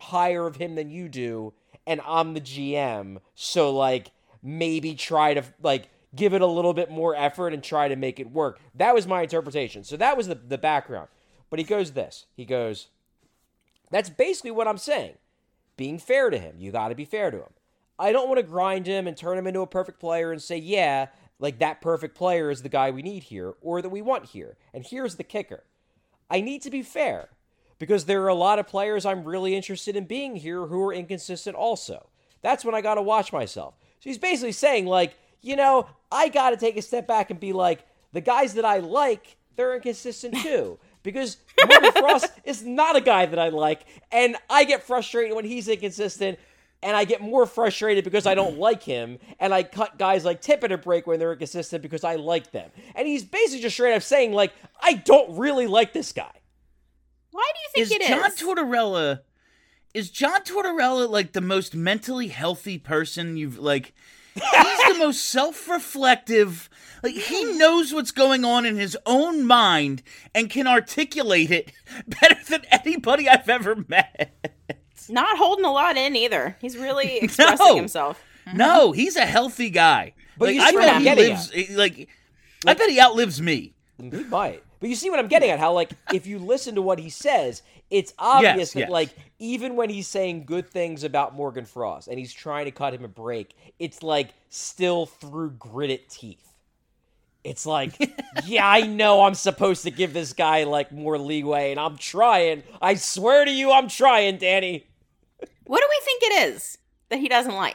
higher of him than you do, and I'm the G M, so, like, maybe try to, like, give it a little bit more effort and try to make it work. That was my interpretation. So that was the, the background. But he goes this. He goes, that's basically what I'm saying. Being fair to him. You got to be fair to him. I don't want to grind him and turn him into a perfect player and say, yeah, like that perfect player is the guy we need here or that we want here. And here's the kicker. I need to be fair because there are a lot of players I'm really interested in being here who are inconsistent also. That's when I got to watch myself. So he's basically saying, like, you know, I got to take a step back and be like, the guys that I like, they're inconsistent too. Because Morgan Frost is not a guy that I like, and I get frustrated when he's inconsistent, and I get more frustrated because I don't like him, and I cut guys like Tippett a break when they're inconsistent because I like them. And he's basically just straight up saying, like, I don't really like this guy. Why do you think is it John is? Tortorella, is John Tortorella, like, the most mentally healthy person you've, like... He's the most self-reflective. Like, he knows what's going on in his own mind and can articulate it better than anybody I've ever met. Not holding a lot in either. He's really expressing No. himself. No, he's a healthy guy. But like, you I see what bet I'm he getting lives. Like, like, I bet he outlives me. He might. But you see what I'm getting at, how, like, if you listen to what he says, it's obvious Yes, that, yes. like, even when he's saying good things about Morgan Frost and he's trying to cut him a break, it's, like, still through gritted teeth. It's like, yeah, I know I'm supposed to give this guy, like, more leeway, and I'm trying. I swear to you, I'm trying, Danny. What do we think it is that he doesn't like?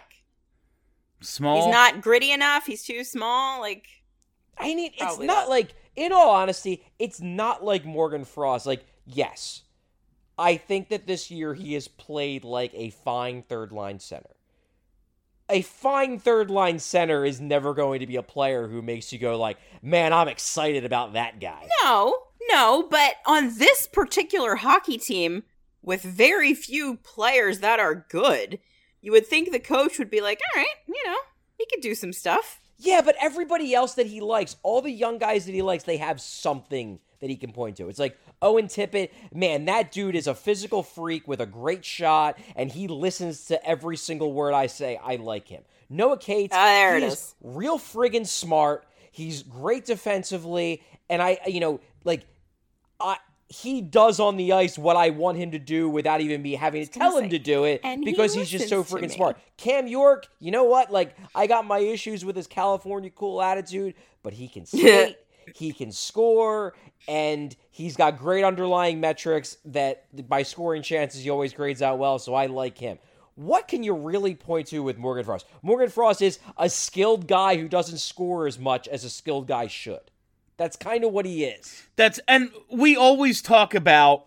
Small. He's not gritty enough. He's too small. Like, I mean, it's Probably not not. like, in all honesty, it's not like Morgan Frost. Like, yes, I think that this year he has played like a fine third line center. A fine third line center is never going to be a player who makes you go like, man, I'm excited about that guy. no, no. But on this particular hockey team, with very few players that are good, you would think the coach would be like, all right, you know, he could do some stuff. Yeah, but everybody else that he likes, all the young guys that he likes, they have something that he can point to. It's like Owen Tippett, man, that dude is a physical freak with a great shot, and he listens to every single word I say. I like him. Noah Cates, Ah, there he it is is. real friggin' smart. He's great defensively, and I, you know, like, I... he does on the ice what I want him to do without even me having to tell him say, to do it and he because he's just so listens to freaking me. smart. Cam York, you know what? Like, I got my issues with his California cool attitude, but he can skate, he can score, and he's got great underlying metrics that by scoring chances he always grades out well, so I like him. What can you really point to with Morgan Frost? Morgan Frost is a skilled guy who doesn't score as much as a skilled guy should. That's kind of what he is. That's and we always talk about,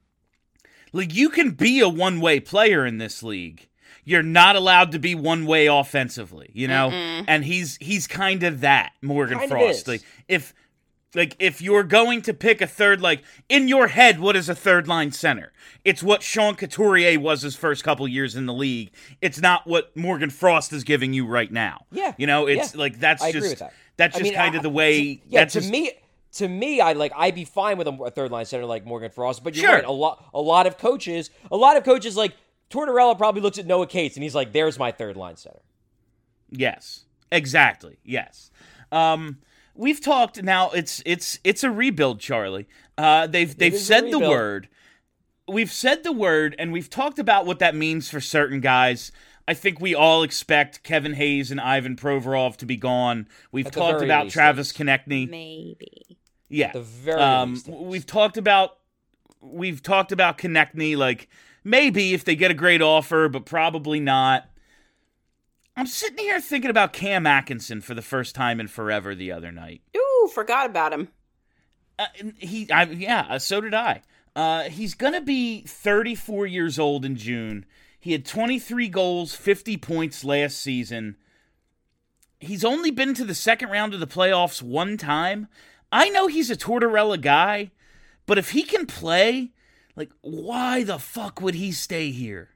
like, you can be a one-way player in this league. You're not allowed to be one-way offensively, you know? Mm-mm. And he's he's kind of that, Morgan Kind of Frost. is. Like if like if you're going to pick a third, like in your head, what is a third line center? It's what Sean Couturier was his first couple years in the league. It's not what Morgan Frost is giving you right now. Yeah. You know, it's Yeah. like that's I just agree with that. that's I just mean, kind I- of the way to- yeah, that's to just, me, to me, I like I'd be fine with a, a third line center like Morgan Frost. But you're Sure. right. A lot, a lot of coaches, a lot of coaches like Tortorella probably looks at Noah Cates and he's like, "There's my third line center." Yes, exactly. Yes. Um, we've talked now. It's it's it's a rebuild, Charlie. Uh, they've they've is a said the rebuild. word. We've said the word, and we've talked about what that means for certain guys. I think we all expect Kevin Hayes and Ivan Provorov to be gone. We've At the talked very about least, Travis yes. Konechny. Maybe. Yeah. At the very um, least, yes. we've talked about we've talked about Konechny, like maybe if they get a great offer, but probably not. I'm sitting here thinking about Cam Atkinson for the first time in forever the other night. Ooh, forgot about him. Uh, and he, I, yeah, uh, so did I. Uh, he's gonna be thirty-four years old in June. He had twenty-three goals, fifty points last season. He's only been to the second round of the playoffs one time. I know he's a Tortorella guy, but if he can play, like, why the fuck would he stay here?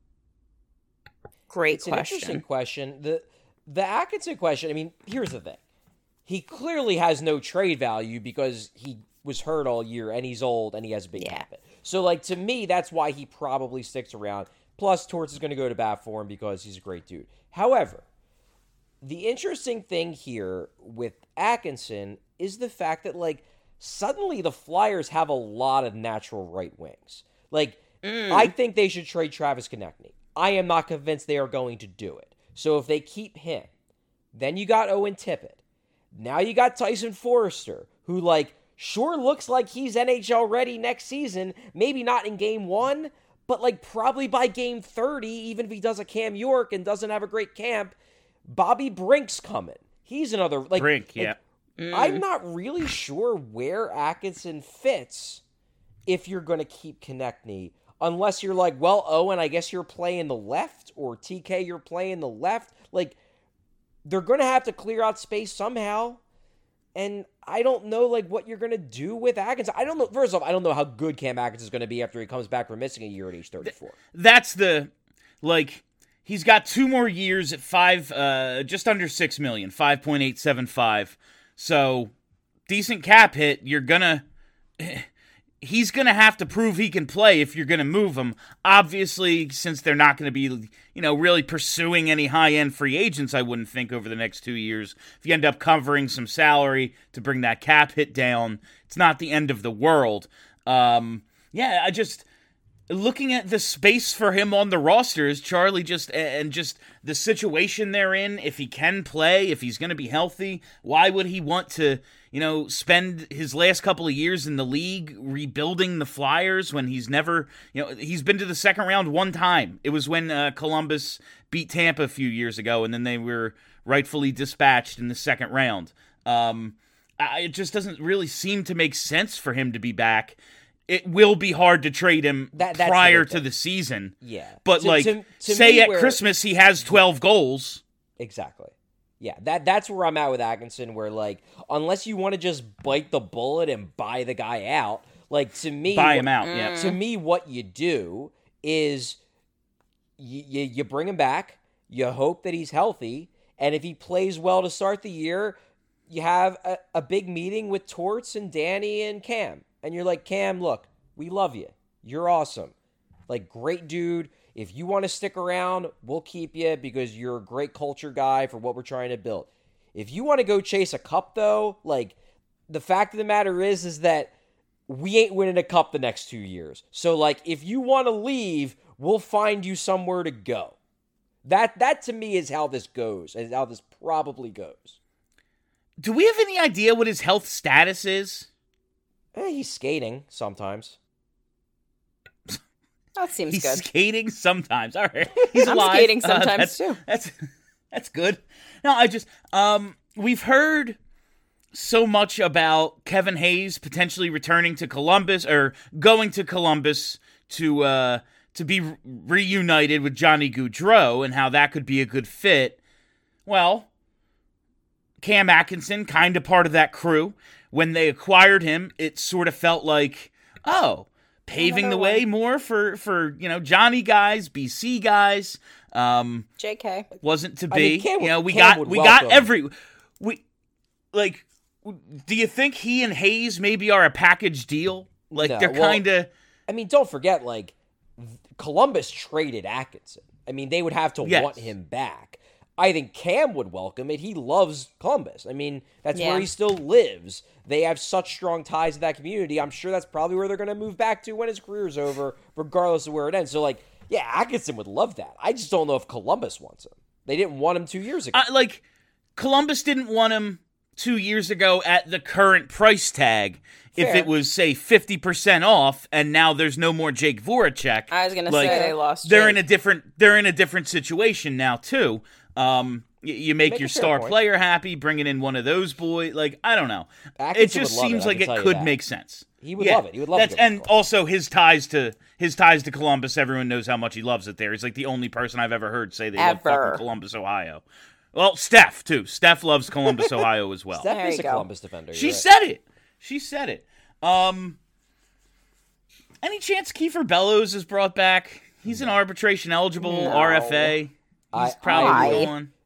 Great It's an interesting question. question. The the Atkinson question, I mean, here's the thing. He clearly has no trade value because he was hurt all year and he's old and he has a big Yeah. cap hit. So, like, to me, that's why he probably sticks around. Plus, Torts is going to go to bat for him because he's a great dude. However, the interesting thing here with Atkinson is the fact that, like, suddenly the Flyers have a lot of natural right wings. Like, mm. I think they should trade Travis Konechny. I am not convinced they are going to do it. So if they keep him, then you got Owen Tippett. Now you got Tyson Forrester, who, like, sure looks like he's N H L ready next season. Maybe not in game one, but, like, probably by game thirty, even if he does a Cam York and doesn't have a great camp. Bobby Brink's coming. He's another, like... Brink, like, yeah. Mm. I'm not really sure where Atkinson fits if you're going to keep Konechny, unless you're like, well, Owen, I guess you're playing the left, or T K, you're playing the left. Like, they're going to have to clear out space somehow, and I don't know, like, what you're going to do with Atkinson. I don't know. First off, I don't know how good Cam Atkinson's going to be after he comes back from missing a year at age thirty-four. That's the, like... He's got two more years at five, uh, just under six million, five point eight seven five. So, decent cap hit. You're gonna, he's gonna have to prove he can play if you're gonna move him. Obviously, since they're not gonna be, you know, really pursuing any high end free agents, I wouldn't think over the next two years. If you end up covering some salary to bring that cap hit down, it's not the end of the world. Um, yeah, I just. Looking at the space for him on the rosters, Charlie just, and just the situation they're in, if he can play, if he's going to be healthy, why would he want to, you know, spend his last couple of years in the league rebuilding the Flyers when he's never, you know, he's been to the second round one time. It was when uh, Columbus beat Tampa a few years ago, and then they were rightfully dispatched in the second round. Um, I, it just doesn't really seem to make sense for him to be back. It will be hard to trade him that, prior to the season. Yeah. But, to, like, to, to say at where... Christmas he has twelve goals. Exactly. Yeah, that that's where I'm at with Atkinson, where, like, unless you want to just bite the bullet and buy the guy out, like, to me... Buy him out, yeah. To me, what you do is you, you, you bring him back, you hope that he's healthy, and if he plays well to start the year, you have a, a big meeting with Torts and Danny and Cam. And you're like, Cam, look, we love you. You're awesome. Like, great dude. If you want to stick around, we'll keep you because you're a great culture guy for what we're trying to build. If you want to go chase a cup, though, like, the fact of the matter is, is that we ain't winning a cup the next two years. So, like, if you want to leave, we'll find you somewhere to go. That, that to me, is how this goes, and how this probably goes. Do we have any idea what his health status is? Eh, he's skating sometimes. That seems he's good. He's skating sometimes. All right. He's I'm alive. skating sometimes, uh, that's, too. That's that's good. No, I just, um, we've heard so much about Kevin Hayes potentially returning to Columbus, or going to Columbus to, uh, to be re- reunited with Johnny Gaudreau, and how that could be a good fit. Well, Cam Atkinson, kind of part of that crew. When they acquired him, it sort of felt like, oh, paving Another the way one. more for, for, you know, Johnny guys, B C guys. Um, J K. Wasn't to be. I mean, Cam you know, we Cam got would we welcome. got every we like. Do you think he and Hayes maybe are a package deal? Like, No, they're well, kind of. I mean, don't forget, like, Columbus traded Atkinson. I mean, they would have to Yes. want him back. I think Cam would welcome it. He loves Columbus. I mean, that's Yeah. where he still lives. They have such strong ties to that community. I'm sure that's probably where they're going to move back to when his career's over, regardless of where it ends. So, like, yeah, Atkinson would love that. I just don't know if Columbus wants him. They didn't want him two years ago. Uh, like, Columbus didn't want him two years ago at the current price tag. If Fair. it was, say, fifty percent off, and now there's no more Jake Voracek. I was gonna like, say they lost. They're Jake. in a different. They're in a different situation now too. Um, you, you make, Make your a fair star point. player happy, bringing in one of those boys. Like, I don't know. Atkinson it just would love seems it, I like can it tell you could that. make sense. He would Yeah, love it. He would love that's, to go to and Columbus. also his ties to his ties to Columbus. Everyone knows how much he loves it there. He's like the only person I've ever heard say they love Ever. fucking Columbus, Ohio. Well, Steph too. Steph loves Columbus, Ohio as well. Steph There is you a go. Columbus defender. She you're right. said it. She said it. Um, any chance Kiefer Bellows is brought back? He's an arbitration eligible No. R F A. He's I- probably I- going.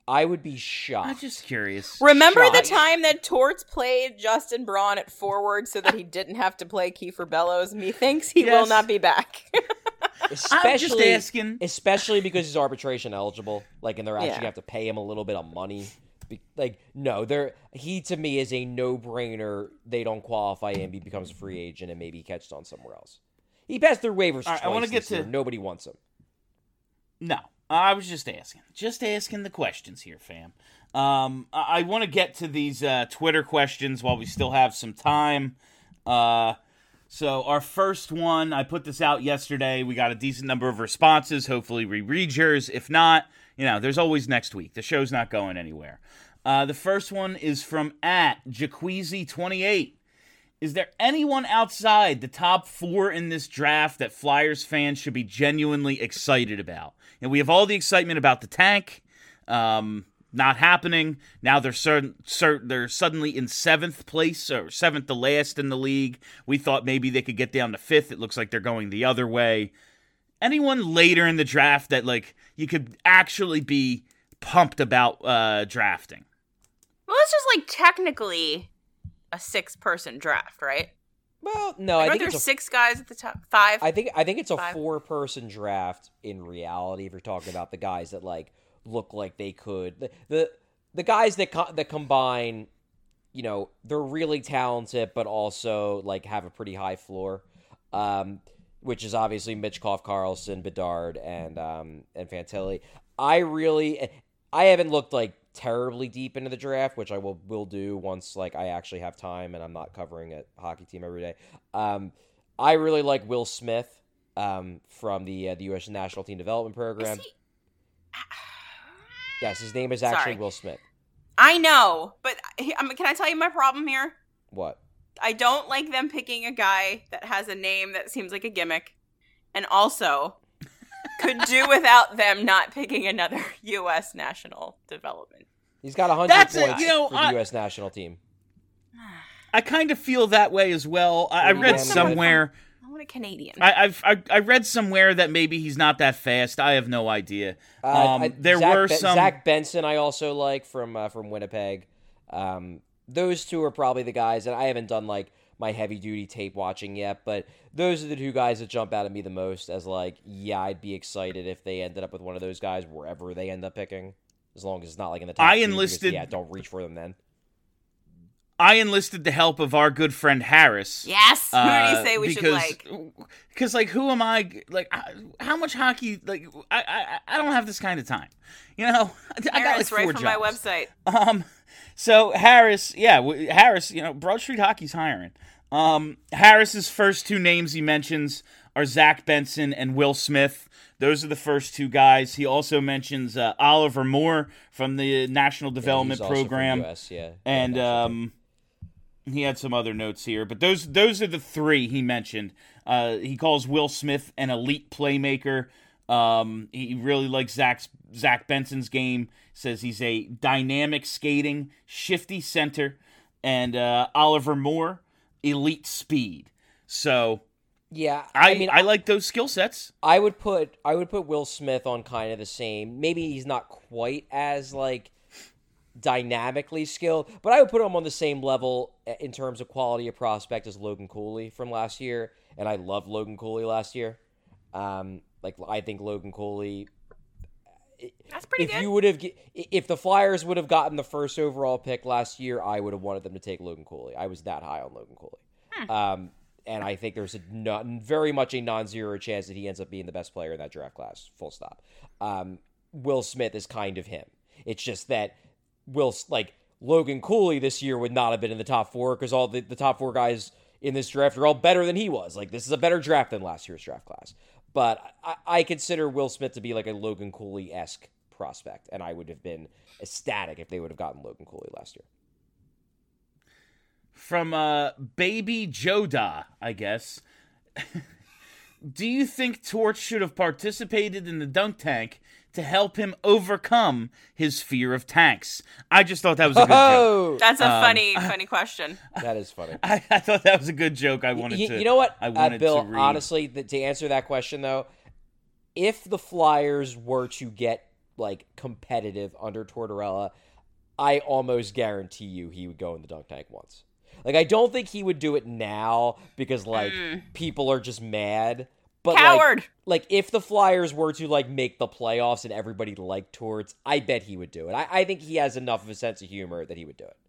I would be shocked. I'm just curious. Remember Shocked. the time that Torts played Justin Braun at forward so that he didn't have to play Kiefer Bellows? Methinks he Yes. will not be back. Especially, I'm just asking. Especially because he's arbitration eligible, like, and they're actually Yeah. gonna have to pay him a little bit of money. Be- Like, no, they're he to me is a no-brainer. They don't qualify him, he becomes a free agent, and maybe he catches on somewhere else. He passed through waivers All right, twice I wanna get this year. to- Nobody wants him. No, I was just asking. Just asking the questions here, fam. Um, I, I want to get to these uh, Twitter questions while we still have some time. Uh, so our first one, I put this out yesterday. We got a decent number of responses. Hopefully we read yours. If not, you know, there's always next week. The show's not going anywhere. Uh, the first one is from at Jaqueezy twenty-eight. Is there anyone outside the top four in this draft that Flyers fans should be genuinely excited about? And we have all the excitement about the tank um, not happening. Now they're certain, certain, they're suddenly in seventh place or seventh to last in the league. We thought maybe they could get down to fifth. It looks like they're going the other way. Anyone later in the draft that like you could actually be pumped about uh, drafting? Well, it's just like technically a six-person draft, right? Well, no, Like, I aren't think there it's a six guys at the top? Five? I think I think it's a Five. four-person draft in reality. If you're talking about the guys that like look like they could, the the, the guys that co- that combine, you know, they're really talented, but also like have a pretty high floor, um, which is obviously Mitchkov, Carlson, Bedard, and um, and Fantilli. I really, I haven't looked like terribly deep into the draft, which I will will do once like I actually have time and I'm not covering a hockey team every day. Um, I really like Will Smith um, from the uh, the U S National Team Development Program. Is he- Yes, his name is actually Sorry. Will Smith. I know, but he- I mean, can I tell you my problem here? What? I don't like them picking a guy that has a name that seems like a gimmick, and also could do without them not picking another U S national development. He's got one hundred That's it, points you know, for the I- U S national team. I kind of feel that way as well. I, I Yeah, read man. somewhere. I want a Canadian. I, I've I, I read somewhere that maybe he's not that fast. I have no idea. Uh, Um, I- there Zach were Ben- some. Zach Benson I also like from uh, from Winnipeg. Um, those two are probably the guys, and I haven't done like my heavy duty tape watching yet, but those are the two guys that jump out at me the most as like, yeah, I'd be excited if they ended up with one of those guys wherever they end up picking, as long as it's not like in the top I two, because, enlisted- yeah, don't reach for them then. I enlisted the help of our good friend Harris. Yes. Who did uh, he say we because, should like? Because like, who am I? Like, I- how much hockey? Like, I I, I don't have this kind of time. You know, I got like Harris, four right from my jobs. website. Um, so Harris, yeah, w- Harris, you know, Broad Street Hockey's hiring. Um, Harris's first two names he mentions are Zach Benson and Will Smith. Those are the first two guys. He also mentions uh, Oliver Moore from the National Development Yeah, he's also from Program, U S, yeah. and Yeah, um, he had some other notes here. But those those are the three he mentioned. Uh, he calls Will Smith an elite playmaker. Um, he really likes Zach's, Zach Benson's game. Says he's a dynamic skating, shifty center, and uh, Oliver Moore, elite speed. So yeah, I, I mean, I like those skill sets. I would put I would put Will Smith on kind of the same. Maybe he's not quite as like dynamically skilled, but I would put him on the same level in terms of quality of prospect as Logan Cooley from last year. And I loved Logan Cooley last year. Um, like I think Logan Cooley. That's pretty if good. you would have, if the Flyers would have gotten the first overall pick last year, I would have wanted them to take Logan Cooley. I was that high on Logan Cooley. Hmm. Um, and I think there's a not, very much a non-zero chance that he ends up being the best player in that draft class. Full stop. Um, Will Smith is kind of him. It's just that Will, like Logan Cooley this year would not have been in the top four because all the, the top four guys in this draft are all better than he was. Like this is a better draft than last year's draft class. But I, I consider Will Smith to be like a Logan Cooley-esque prospect, and I would have been ecstatic if they would have gotten Logan Cooley last year. From uh, Baby Joda, I guess. Do you think Torch should have participated in the dunk tank to help him overcome his fear of tanks? I just thought that was a good joke. Oh, That's a Um, funny, funny question. that is funny. I, I thought that was a good joke. I wanted you, to. you know what, I uh, wanted Bill? to read. Honestly, th- to answer that question though, if the Flyers were to get like competitive under Tortorella, I almost guarantee you he would go in the dunk tank once. Like, I don't think he would do it now because, like, mm. people are just mad. But, Coward! Like, like, if the Flyers were to, like, make the playoffs and everybody liked Torts, I bet he would do it. I, I think he has enough of a sense of humor that he would do it.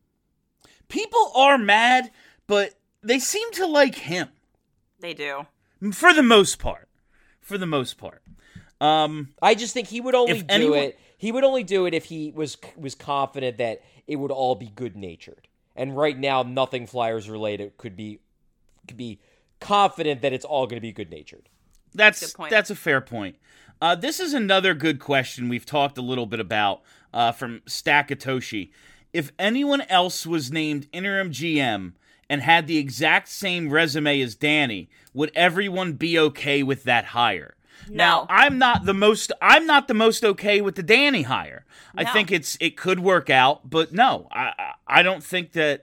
People are mad, but they seem to like him. They do. For the most part. For the most part. Um, I just think he would only do anyone... it. He would only do it if he was was confident that it would all be good-natured. And right now, nothing Flyers related could be could be confident that it's all going to be good-natured. That's that's a fair point. Uh, this is another good question we've talked a little bit about uh, from Stackatoshi. If anyone else was named interim G M and had the exact same resume as Danny, would everyone be okay with that hire? No. Now, I'm not the most I'm not the most okay with the Danny hire. No. I think it's it could work out, but no, I I don't think that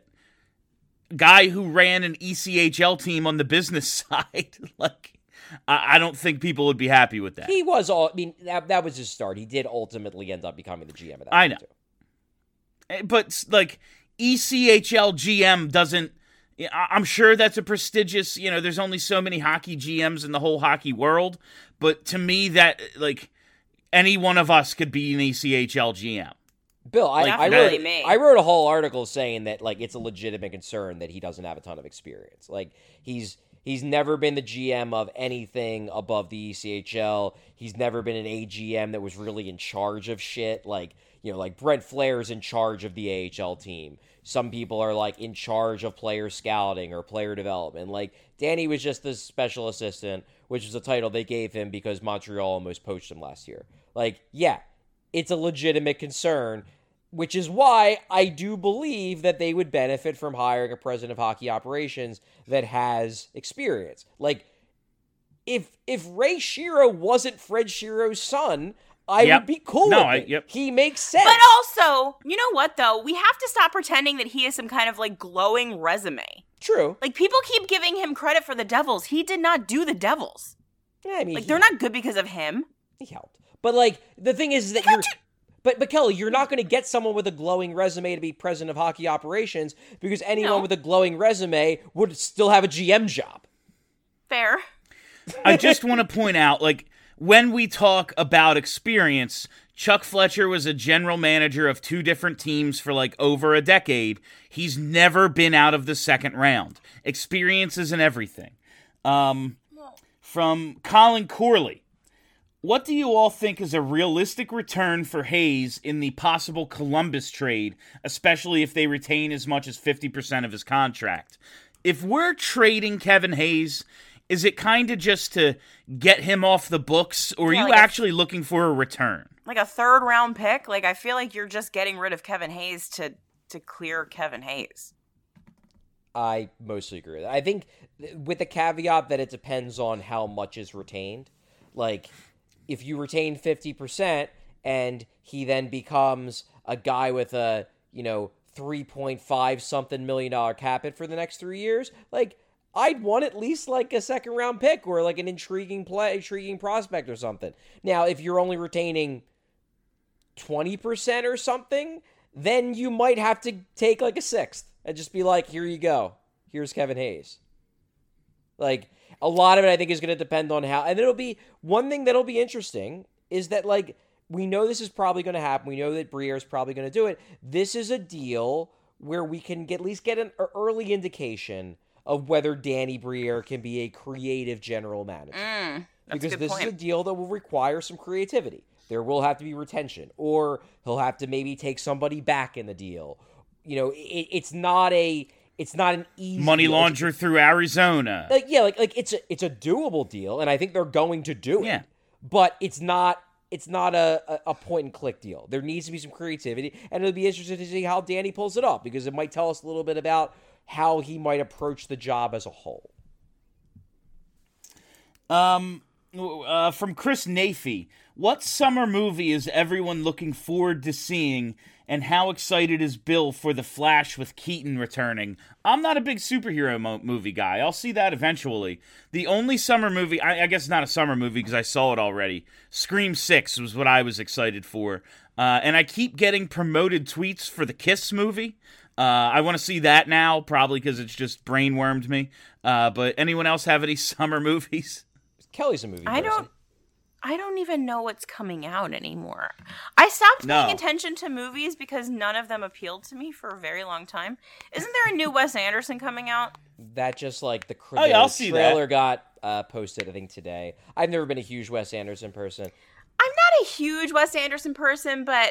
guy who ran an E C H L team on the business side, like I, I don't think people would be happy with that. He was all I mean that that was his start. He did ultimately end up becoming the G M of that. I know. Too. But like E C H L G M doesn't I'm sure that's a prestigious, you know, there's only so many hockey G Ms in the whole hockey world, but to me that, like, any one of us could be an E C H L G M. Bill, I, like, I, really wrote, me. I wrote a whole article saying that, like, it's a legitimate concern that he doesn't have a ton of experience. Like, he's he's never been the G M of anything above the E C H L. He's never been an A G M that was really in charge of shit. Like, you know, like Brent Flair's in charge of the A H L team. Some people are, like, in charge of player scouting or player development. Like, Danny was just the special assistant, which was a title they gave him because Montreal almost poached him last year. Like, yeah, it's a legitimate concern, which is why I do believe that they would benefit from hiring a president of hockey operations that has experience. Like, if if Ray Shero wasn't Fred Shero's son, I yep. would be cool no, with I, it. yep. He makes sense. But also, you know what, though? We have to stop pretending that he has some kind of, like, glowing resume. True. Like, people keep giving him credit for the Devils. He did not do the Devils. Yeah, I mean, Like, he, they're not good because of him. He helped. But, like, the thing is that you're... But, but Kelly, you're not going to get someone with a glowing resume to be president of hockey operations because anyone No. with a glowing resume would still have a G M job. Fair. I just want to point out, like, when we talk about experience, Chuck Fletcher was a general manager of two different teams for like over a decade. He's never been out of the second round. Experience isn't everything. Um, from Colin Corley, what do you all think is a realistic return for Hayes in the possible Columbus trade, especially if they retain as much as fifty percent of his contract? If we're trading Kevin Hayes, is it kind of just to get him off the books, or are Yeah, you like a- actually looking for a return? Like a third round pick? Like, I feel like you're just getting rid of Kevin Hayes to, to clear Kevin Hayes. I mostly agree with that. I think with the caveat that it depends on how much is retained. Like, if you retain fifty percent and he then becomes a guy with a, you know, three point five something million dollar cap hit for the next three years, like, I'd want at least like a second round pick or like an intriguing play, intriguing prospect or something. Now, if you're only retaining twenty percent or something, then you might have to take like a sixth and just be like, here you go. Here's Kevin Hayes. Like, a lot of it I think is going to depend on how, and it'll be, one thing that'll be interesting is that, like, we know this is probably going to happen. We know that Briere is probably going to do it. This is a deal where we can get, at least get an early indication of whether Danny Briere can be a creative general manager. Mm, that's because a good this point. is a deal that will require some creativity. There will have to be retention, or he'll have to maybe take somebody back in the deal. You know, it, it's not a, it's not an easy Money deal. launderer through Arizona. Like, yeah, like like it's a it's a doable deal, and I think they're going to do it. Yeah. But it's not it's not a, a, a point and click deal. There needs to be some creativity, and it'll be interesting to see how Danny pulls it off, because it might tell us a little bit about how he might approach the job as a whole. Um, uh, from Chris Nafee. What summer movie is everyone looking forward to seeing, and how excited is Bill for The Flash with Keaton returning? I'm not a big superhero mo- movie guy. I'll see that eventually. The only summer movie, I, I guess not a summer movie because I saw it already, Scream six was what I was excited for. Uh, and I keep getting promoted tweets for the Kiss movie. Uh, I want to see that now, probably because it's just brainwormed me. Uh, but anyone else have any summer movies? Kelly's a movie I person. don't. I don't even know what's coming out anymore. I stopped No. paying attention to movies because none of them appealed to me for a very long time. Isn't there a new Wes Anderson coming out? That just like the, cr- Oh, yeah, the I'll see that. trailer got uh, posted, I think, today. I've never been a huge Wes Anderson person. I'm not a huge Wes Anderson person, but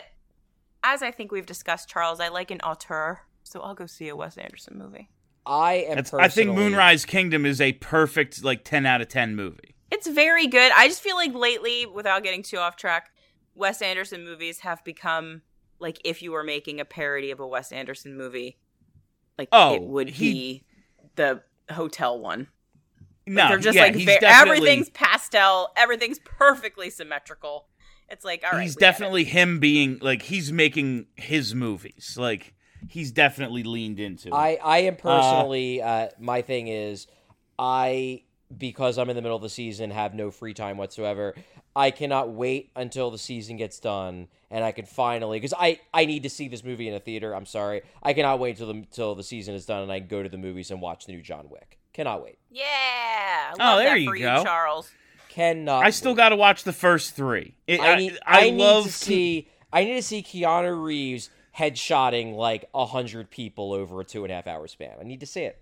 as I think we've discussed, Charles, I like an auteur, so I'll go see a Wes Anderson movie. I am That's, personally... I think Moonrise Kingdom is a perfect, like, ten out of ten movie. It's very good. I just feel like lately, without getting too off track, Wes Anderson movies have become like if you were making a parody of a Wes Anderson movie, like Oh, it would he- be the hotel one. Like, No, they're just yeah, like he's ve- definitely, everything's pastel, everything's perfectly symmetrical. It's like all right, he's we get it. definitely him being, like, he's making his movies. Like, he's definitely leaned into it. I, I am personally, uh, my thing is, I, because I'm in the middle of the season, have no free time whatsoever. I cannot wait until the season gets done and I can finally, because I, I need to see this movie in a theater. I'm sorry. I cannot wait till the, till the season is done and I can go to the movies and watch the new John Wick. Cannot wait. Yeah. I Oh, love there that you for go. Charles. Cannot I still wait. got to watch the first three. It, I need, I, I, need love to see, I need to see Keanu Reeves headshotting like a hundred people over a two and a half hour span. I need to see it.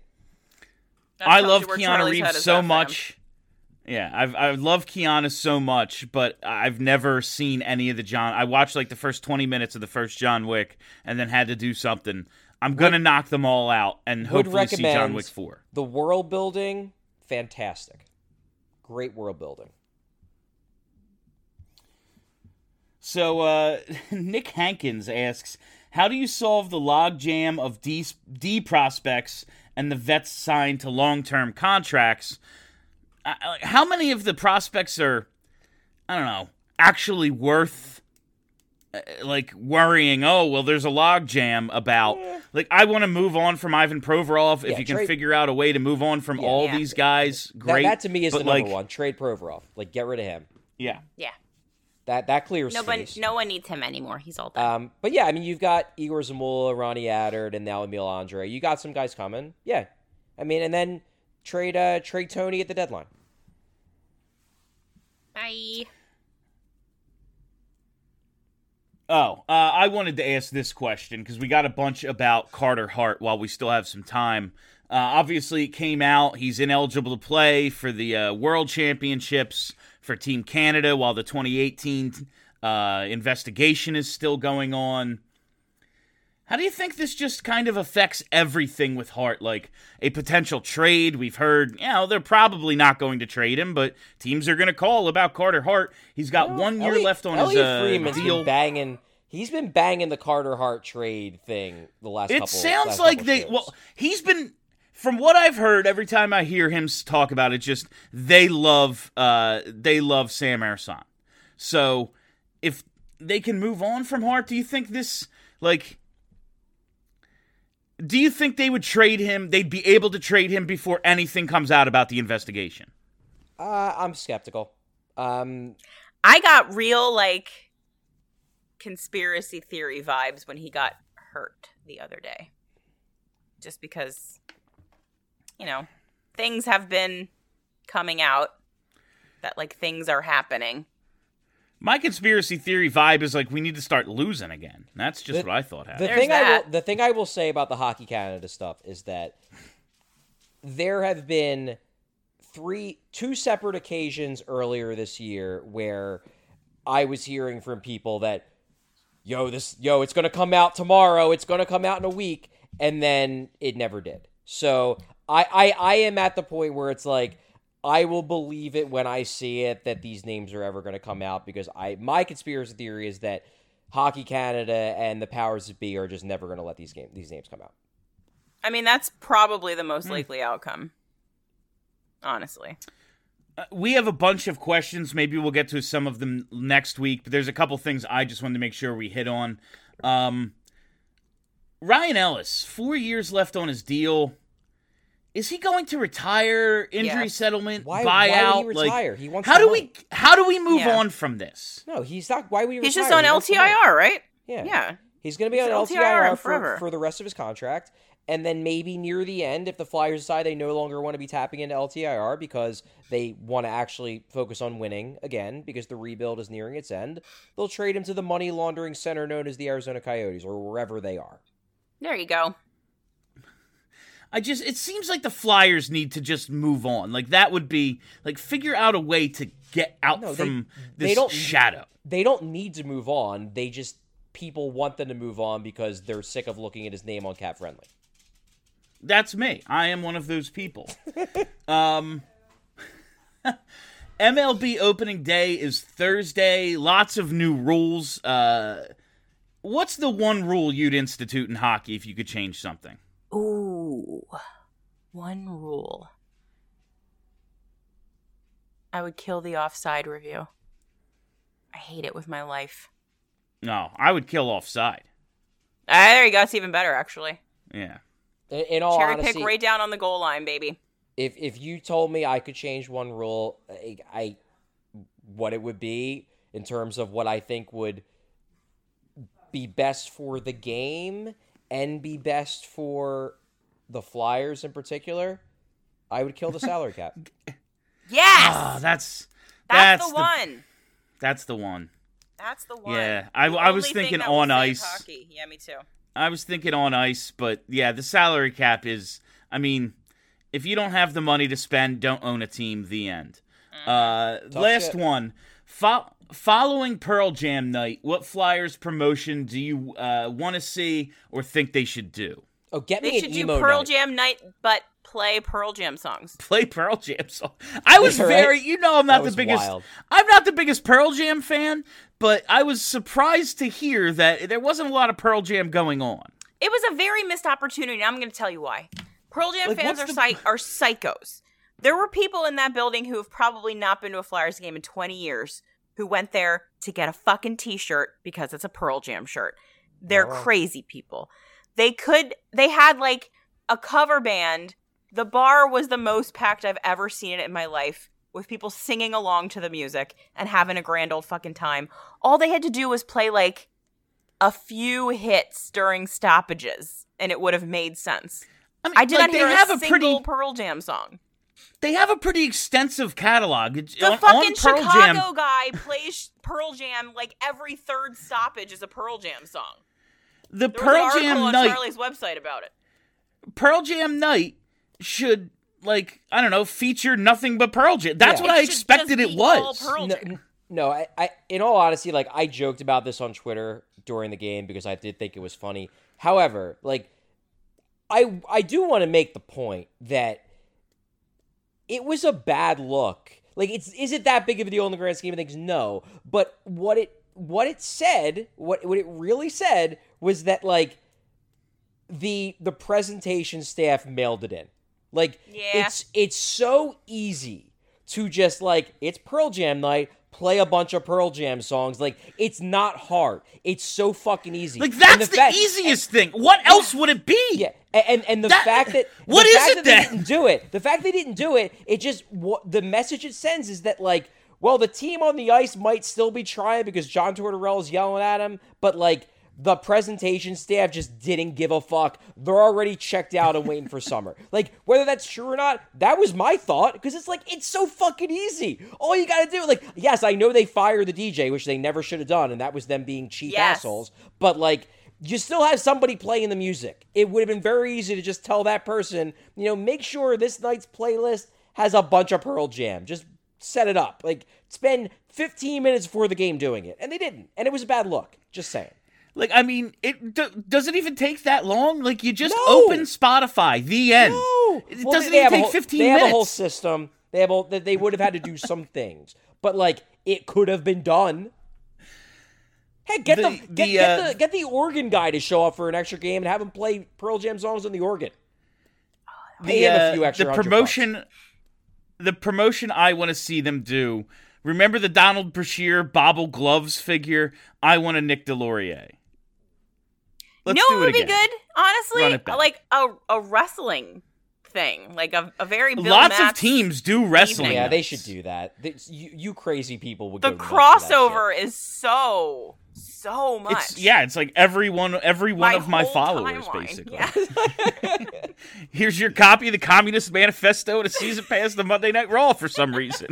That I tells love you where Keanu Charlie's head Reeves is so at for him. much. Yeah, I've I love Keanu so much, but I've never seen any of the John. I watched like the first twenty minutes of the first John Wick, and then had to do something. I'm gonna knock them all out and Would hopefully see John recommend Wick four. The world building, fantastic, great world building. So uh, Nick Hankins asks, how do you solve the logjam of D, D prospects and the vets signed to long-term contracts? Uh, how many of the prospects are, I don't know, actually worth, uh, like, worrying, oh, well, there's a logjam about. Yeah. Like, I want to move on from Ivan Provorov. If Yeah, you can trade- figure out a way to move on from Yeah. all Yeah. these guys, That, great. that to me is but, the number like, one. Trade Provorov. Like, get rid of him. Yeah. Yeah. That that clears No one, space. no one needs him anymore. He's all done. Um, but yeah, I mean, you've got Igor Zamula, Ronnie Adard, and now Emil Andre. You got some guys coming. Yeah, I mean, and then trade uh, trade Tony at the deadline. Bye. Oh, uh, I wanted to ask this question because we got a bunch about Carter Hart while we still have some time. Uh, obviously, it came out. He's ineligible to play for the uh, World Championships for Team Canada while the twenty eighteen uh, investigation is still going on. How do you think this just kind of affects everything with Hart? Like a potential trade? We've heard, you know, they're probably not going to trade him, but teams are going to call about Carter Hart. He's got Well, one year Elliot- left on Elliot his uh, Freeman's deal. been banging. He's been banging the Carter Hart trade thing the last. It couple, sounds last like couple they. shows. Well, he's been. From what I've heard, every time I hear him s- talk about it, just they love. Uh, they love Sam Ersan. So if they can move on from Hart, do you think this like? Do you think they would trade him? They'd be able to trade him before anything comes out about the investigation. Uh, I'm skeptical. Um, I got real like conspiracy theory vibes when he got hurt the other day. Just because, you know, things have been coming out that like things are happening. My conspiracy theory vibe is like we need to start losing again. That's just The- what I thought The happened. There's thing I that. will, the thing I will say about the Hockey Canada stuff is that there have been three, two separate occasions earlier this year where I was hearing from people that, yo, this, yo, it's gonna come out tomorrow. It's gonna come out in a week, and then it never did. So I, I, I am at the point where it's like, I will believe it when I see it that these names are ever going to come out because I my conspiracy theory is that Hockey Canada and the powers that be are just never going to let these game these names come out. I mean, that's probably the Hmm. most likely outcome. Honestly. Uh, we have a bunch of questions. Maybe we'll get to some of them next week, but there's a couple things I just wanted to make sure we hit on. Um, Ryan Ellis, four years left on his deal. Is he going to retire? Injury Yes. settlement, Why, buyout? why would he Like, retire? he wants how the do money. we how do we move Yeah. on from this? No, he's not. Why would he He's retire? just on He wants the money. L T I R, right? Yeah. Yeah. He's going to be He's on L T I R L T I R for, forever. for the rest of his contract. And then maybe near the end, if the Flyers decide they no longer want to be tapping into L T I R because they want to actually focus on winning again because the rebuild is nearing its end, they'll trade him to the money laundering center known as the Arizona Coyotes or wherever they are. There you go. I just, it seems like the Flyers need to just move on. Like, that would be, like, figure out a way to get out No, they- from they this don't- shadow. They don't need to move on. They just, people want them to move on because they're sick of looking at his name on Cap Friendly. That's me. I am one of those people. um, M L B opening day is Thursday. Lots of new rules. Uh, what's the one rule you'd institute in hockey if you could change something? Ooh. One rule. I would kill the offside review. I hate it with my life. No, I would kill offside. Ah, there you go. It's even better, actually. Yeah. In, in all Cherry honesty, pick right down on the goal line, baby. if if you told me I could change one rule, I, I what it would be in terms of what I think would be best for the game and be best for the Flyers in particular, I would kill the salary cap. Yes! Ah, that's that's, that's the, one. That's the one. That's the one. Yeah, I, The I was only thing thinking that will on save ice. Hockey. Yeah, me too. I was thinking on ice, but yeah, the salary cap is, I mean, if you don't have the money to spend, don't own a team, the end. Uh, last shit. one. Fo- following Pearl Jam night, what Flyers promotion do you uh, want to see or think they should do? Oh, get They me should an do emo Pearl night. Jam night, but play Pearl Jam songs. Play Pearl Jam song. I was Right? very, you know, I'm not That the was biggest. wild. I'm not the biggest Pearl Jam fan, but I was surprised to hear that there wasn't a lot of Pearl Jam going on. It was a very missed opportunity, and I'm going to tell you why. Pearl Jam Like, fans what's are, the- psych- are psychos. There were people in that building who have probably not been to a Flyers game in twenty years who went there to get a fucking t-shirt because it's a Pearl Jam shirt. They're Wow. crazy people. They could, they had like a cover band. The bar was the most packed I've ever seen it in my life, with people singing along to the music and having a grand old fucking time. All they had to do was play like a few hits during stoppages, and it would have made sense. I, mean, I did like, not hear they have a a single pretty, Pearl Jam song. They have a pretty extensive catalog. It's- The on, fucking on Pearl Chicago Jam, guy plays Pearl Jam like every third stoppage is a Pearl Jam song. the There was Pearl an article Jam on night. Charlie's website about it. Pearl Jam night should, like, I don't know, feature nothing but Pearl Jam. That's Yeah. what It I should expected just it be all was. Pearl No, Jam. n- no I, I, in all honesty, like, I joked about this on Twitter during the game because I did think it was funny. However, like, I, I do want to make the point that it was a bad look. Like, it's is it that big of a deal in the grand scheme of things? No. But what it what it said, what what it really said was that, like, the the presentation staff mailed it in. Like, Yeah. it's it's so easy to just, like, it's Pearl Jam night, play a bunch of Pearl Jam songs. Like, it's not hard. It's so fucking easy. Like, And that's the, fact- easiest thing. What else would it be? Yeah, a- and and the That- fact that what the is fact it that then? they didn't do it, the fact they didn't do it, it just what the message it sends is that, like, well, the team on the ice might still be trying because John Tortorella's yelling at him, but, like, the presentation staff just didn't give a fuck. They're already checked out and waiting for summer. Like, whether that's true or not, that was my thought, because it's like, it's so fucking easy. All you gotta do, like, yes, I know they fired the D J, which they never should have done, and that was them being cheap Yes. assholes, but, like, you still have somebody playing the music. It would have been very easy to just tell that person, you know, make sure this night's playlist has a bunch of Pearl Jam. Just set it up. Like, spend fifteen minutes before the game doing it. And they didn't. And it was a bad look. Just saying. Like, I mean, it d- does it even take that long? Like, you just No. open Spotify, the end. No! It Well, doesn't they even have a take whole- fifteen They minutes. have a whole system. They have a, that they would have had to do some things. But, like, it could have been done. Hey, get the, The- get, the, get uh, the get the organ guy to show up for an extra game and have him play Pearl Jam songs on the organ. Pay the, him a uh, few extra the hundred promotion the promotion I want to see them do. Remember the Donald Brashear Bobble Gloves figure? I want a Nick DeLaurier. Let's no, do it it would again. be good. Honestly, Run it back. like a a wrestling thing, like a, a very Bill Lots Matz of teams do wrestling. evening. Yeah, they nights. should do that. They, you, you crazy people would The go nuts for that crossover shit. is so so much. It's yeah, it's like every one, every one My of my whole followers, timeline. basically. Yeah. Here's your copy of the Communist Manifesto and a season pass to Monday Night Raw for some reason.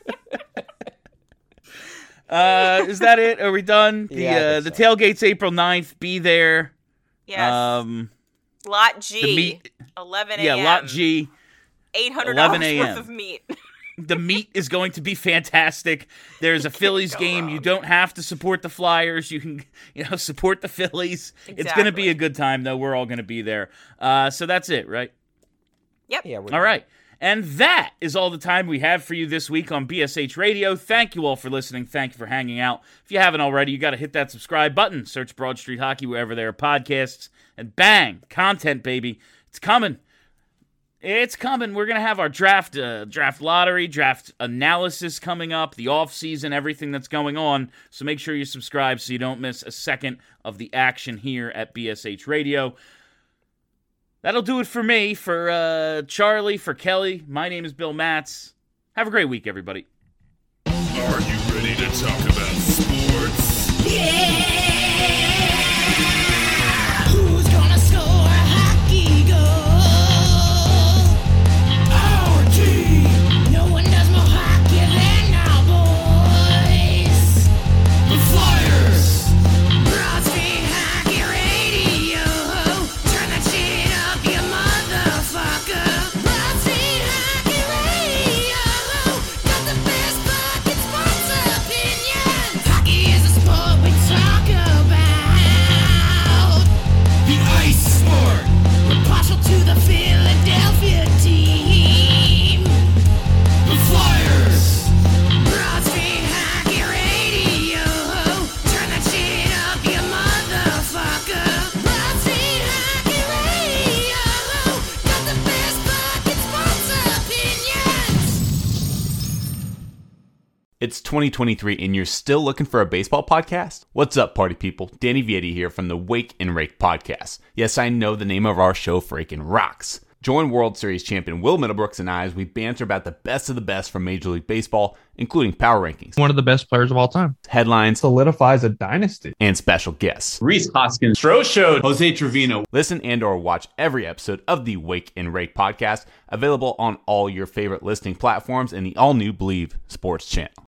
uh, is that it? Are we done? The Yeah, I uh, the think so. tailgate's April ninth. Be there. Yes. Um, Lot G. the meat- eleven a.m. yeah, Lot G. eight hundred eleven dollars a.m. worth of meat. The meat is going to be fantastic. There's a Phillies go game. wrong. You don't have to support the Flyers. You can, you know, support the Phillies. It's going to be Exactly. a good time, though. We're all going to be there. Uh, so that's it, right? Yep. Yeah, we're All right. And that is all the time we have for you this week on B S H Radio. Thank you all for listening. Thank you for hanging out. If you haven't already, you got to hit that subscribe button. Search Broad Street Hockey wherever there are podcasts. And bang, content, baby. It's coming. It's coming. We're going to have our draft uh, draft lottery, draft analysis coming up, the offseason, everything that's going on. So make sure you subscribe so you don't miss a second of the action here at B S H Radio. That'll do it for me, for uh, Charlie, for Kelly. My name is Bill Matz. Have a great week, everybody. Are you ready to talk about sports? Who's gonna score a hockey goal? Our team. No one does more hockey than our boys. The Flyers. Broad Street Hockey Radio. Turn that shit up, you motherfucker. Broad Street Hockey Radio. Got the best fucking sports opinions. Hockey is a sport we talk about. The ice sport. We're partial to the Philadelphia team. The Flyers. Broad Street Hockey Radio. Turn that shit up, you motherfucker. Broad Street Hockey Radio. Got the best fucking sports opinions. It's twenty twenty-three and you're still looking for a baseball podcast? What's up, party people? Danny Vietti here from the Wake and Rake podcast. Yes, I know the name of our show freaking rocks. Join World Series champion Will Middlebrooks and I as we banter about the best of the best from Major League Baseball, including power rankings, One of the best players of all time. headlines, Solidifies a dynasty. and special guests. Reese Hoskins, Stro Show, Jose Trevino. Listen and or watch every episode of the Wake and Rake podcast, available on all your favorite listening platforms and the all-new Believe Sports channel.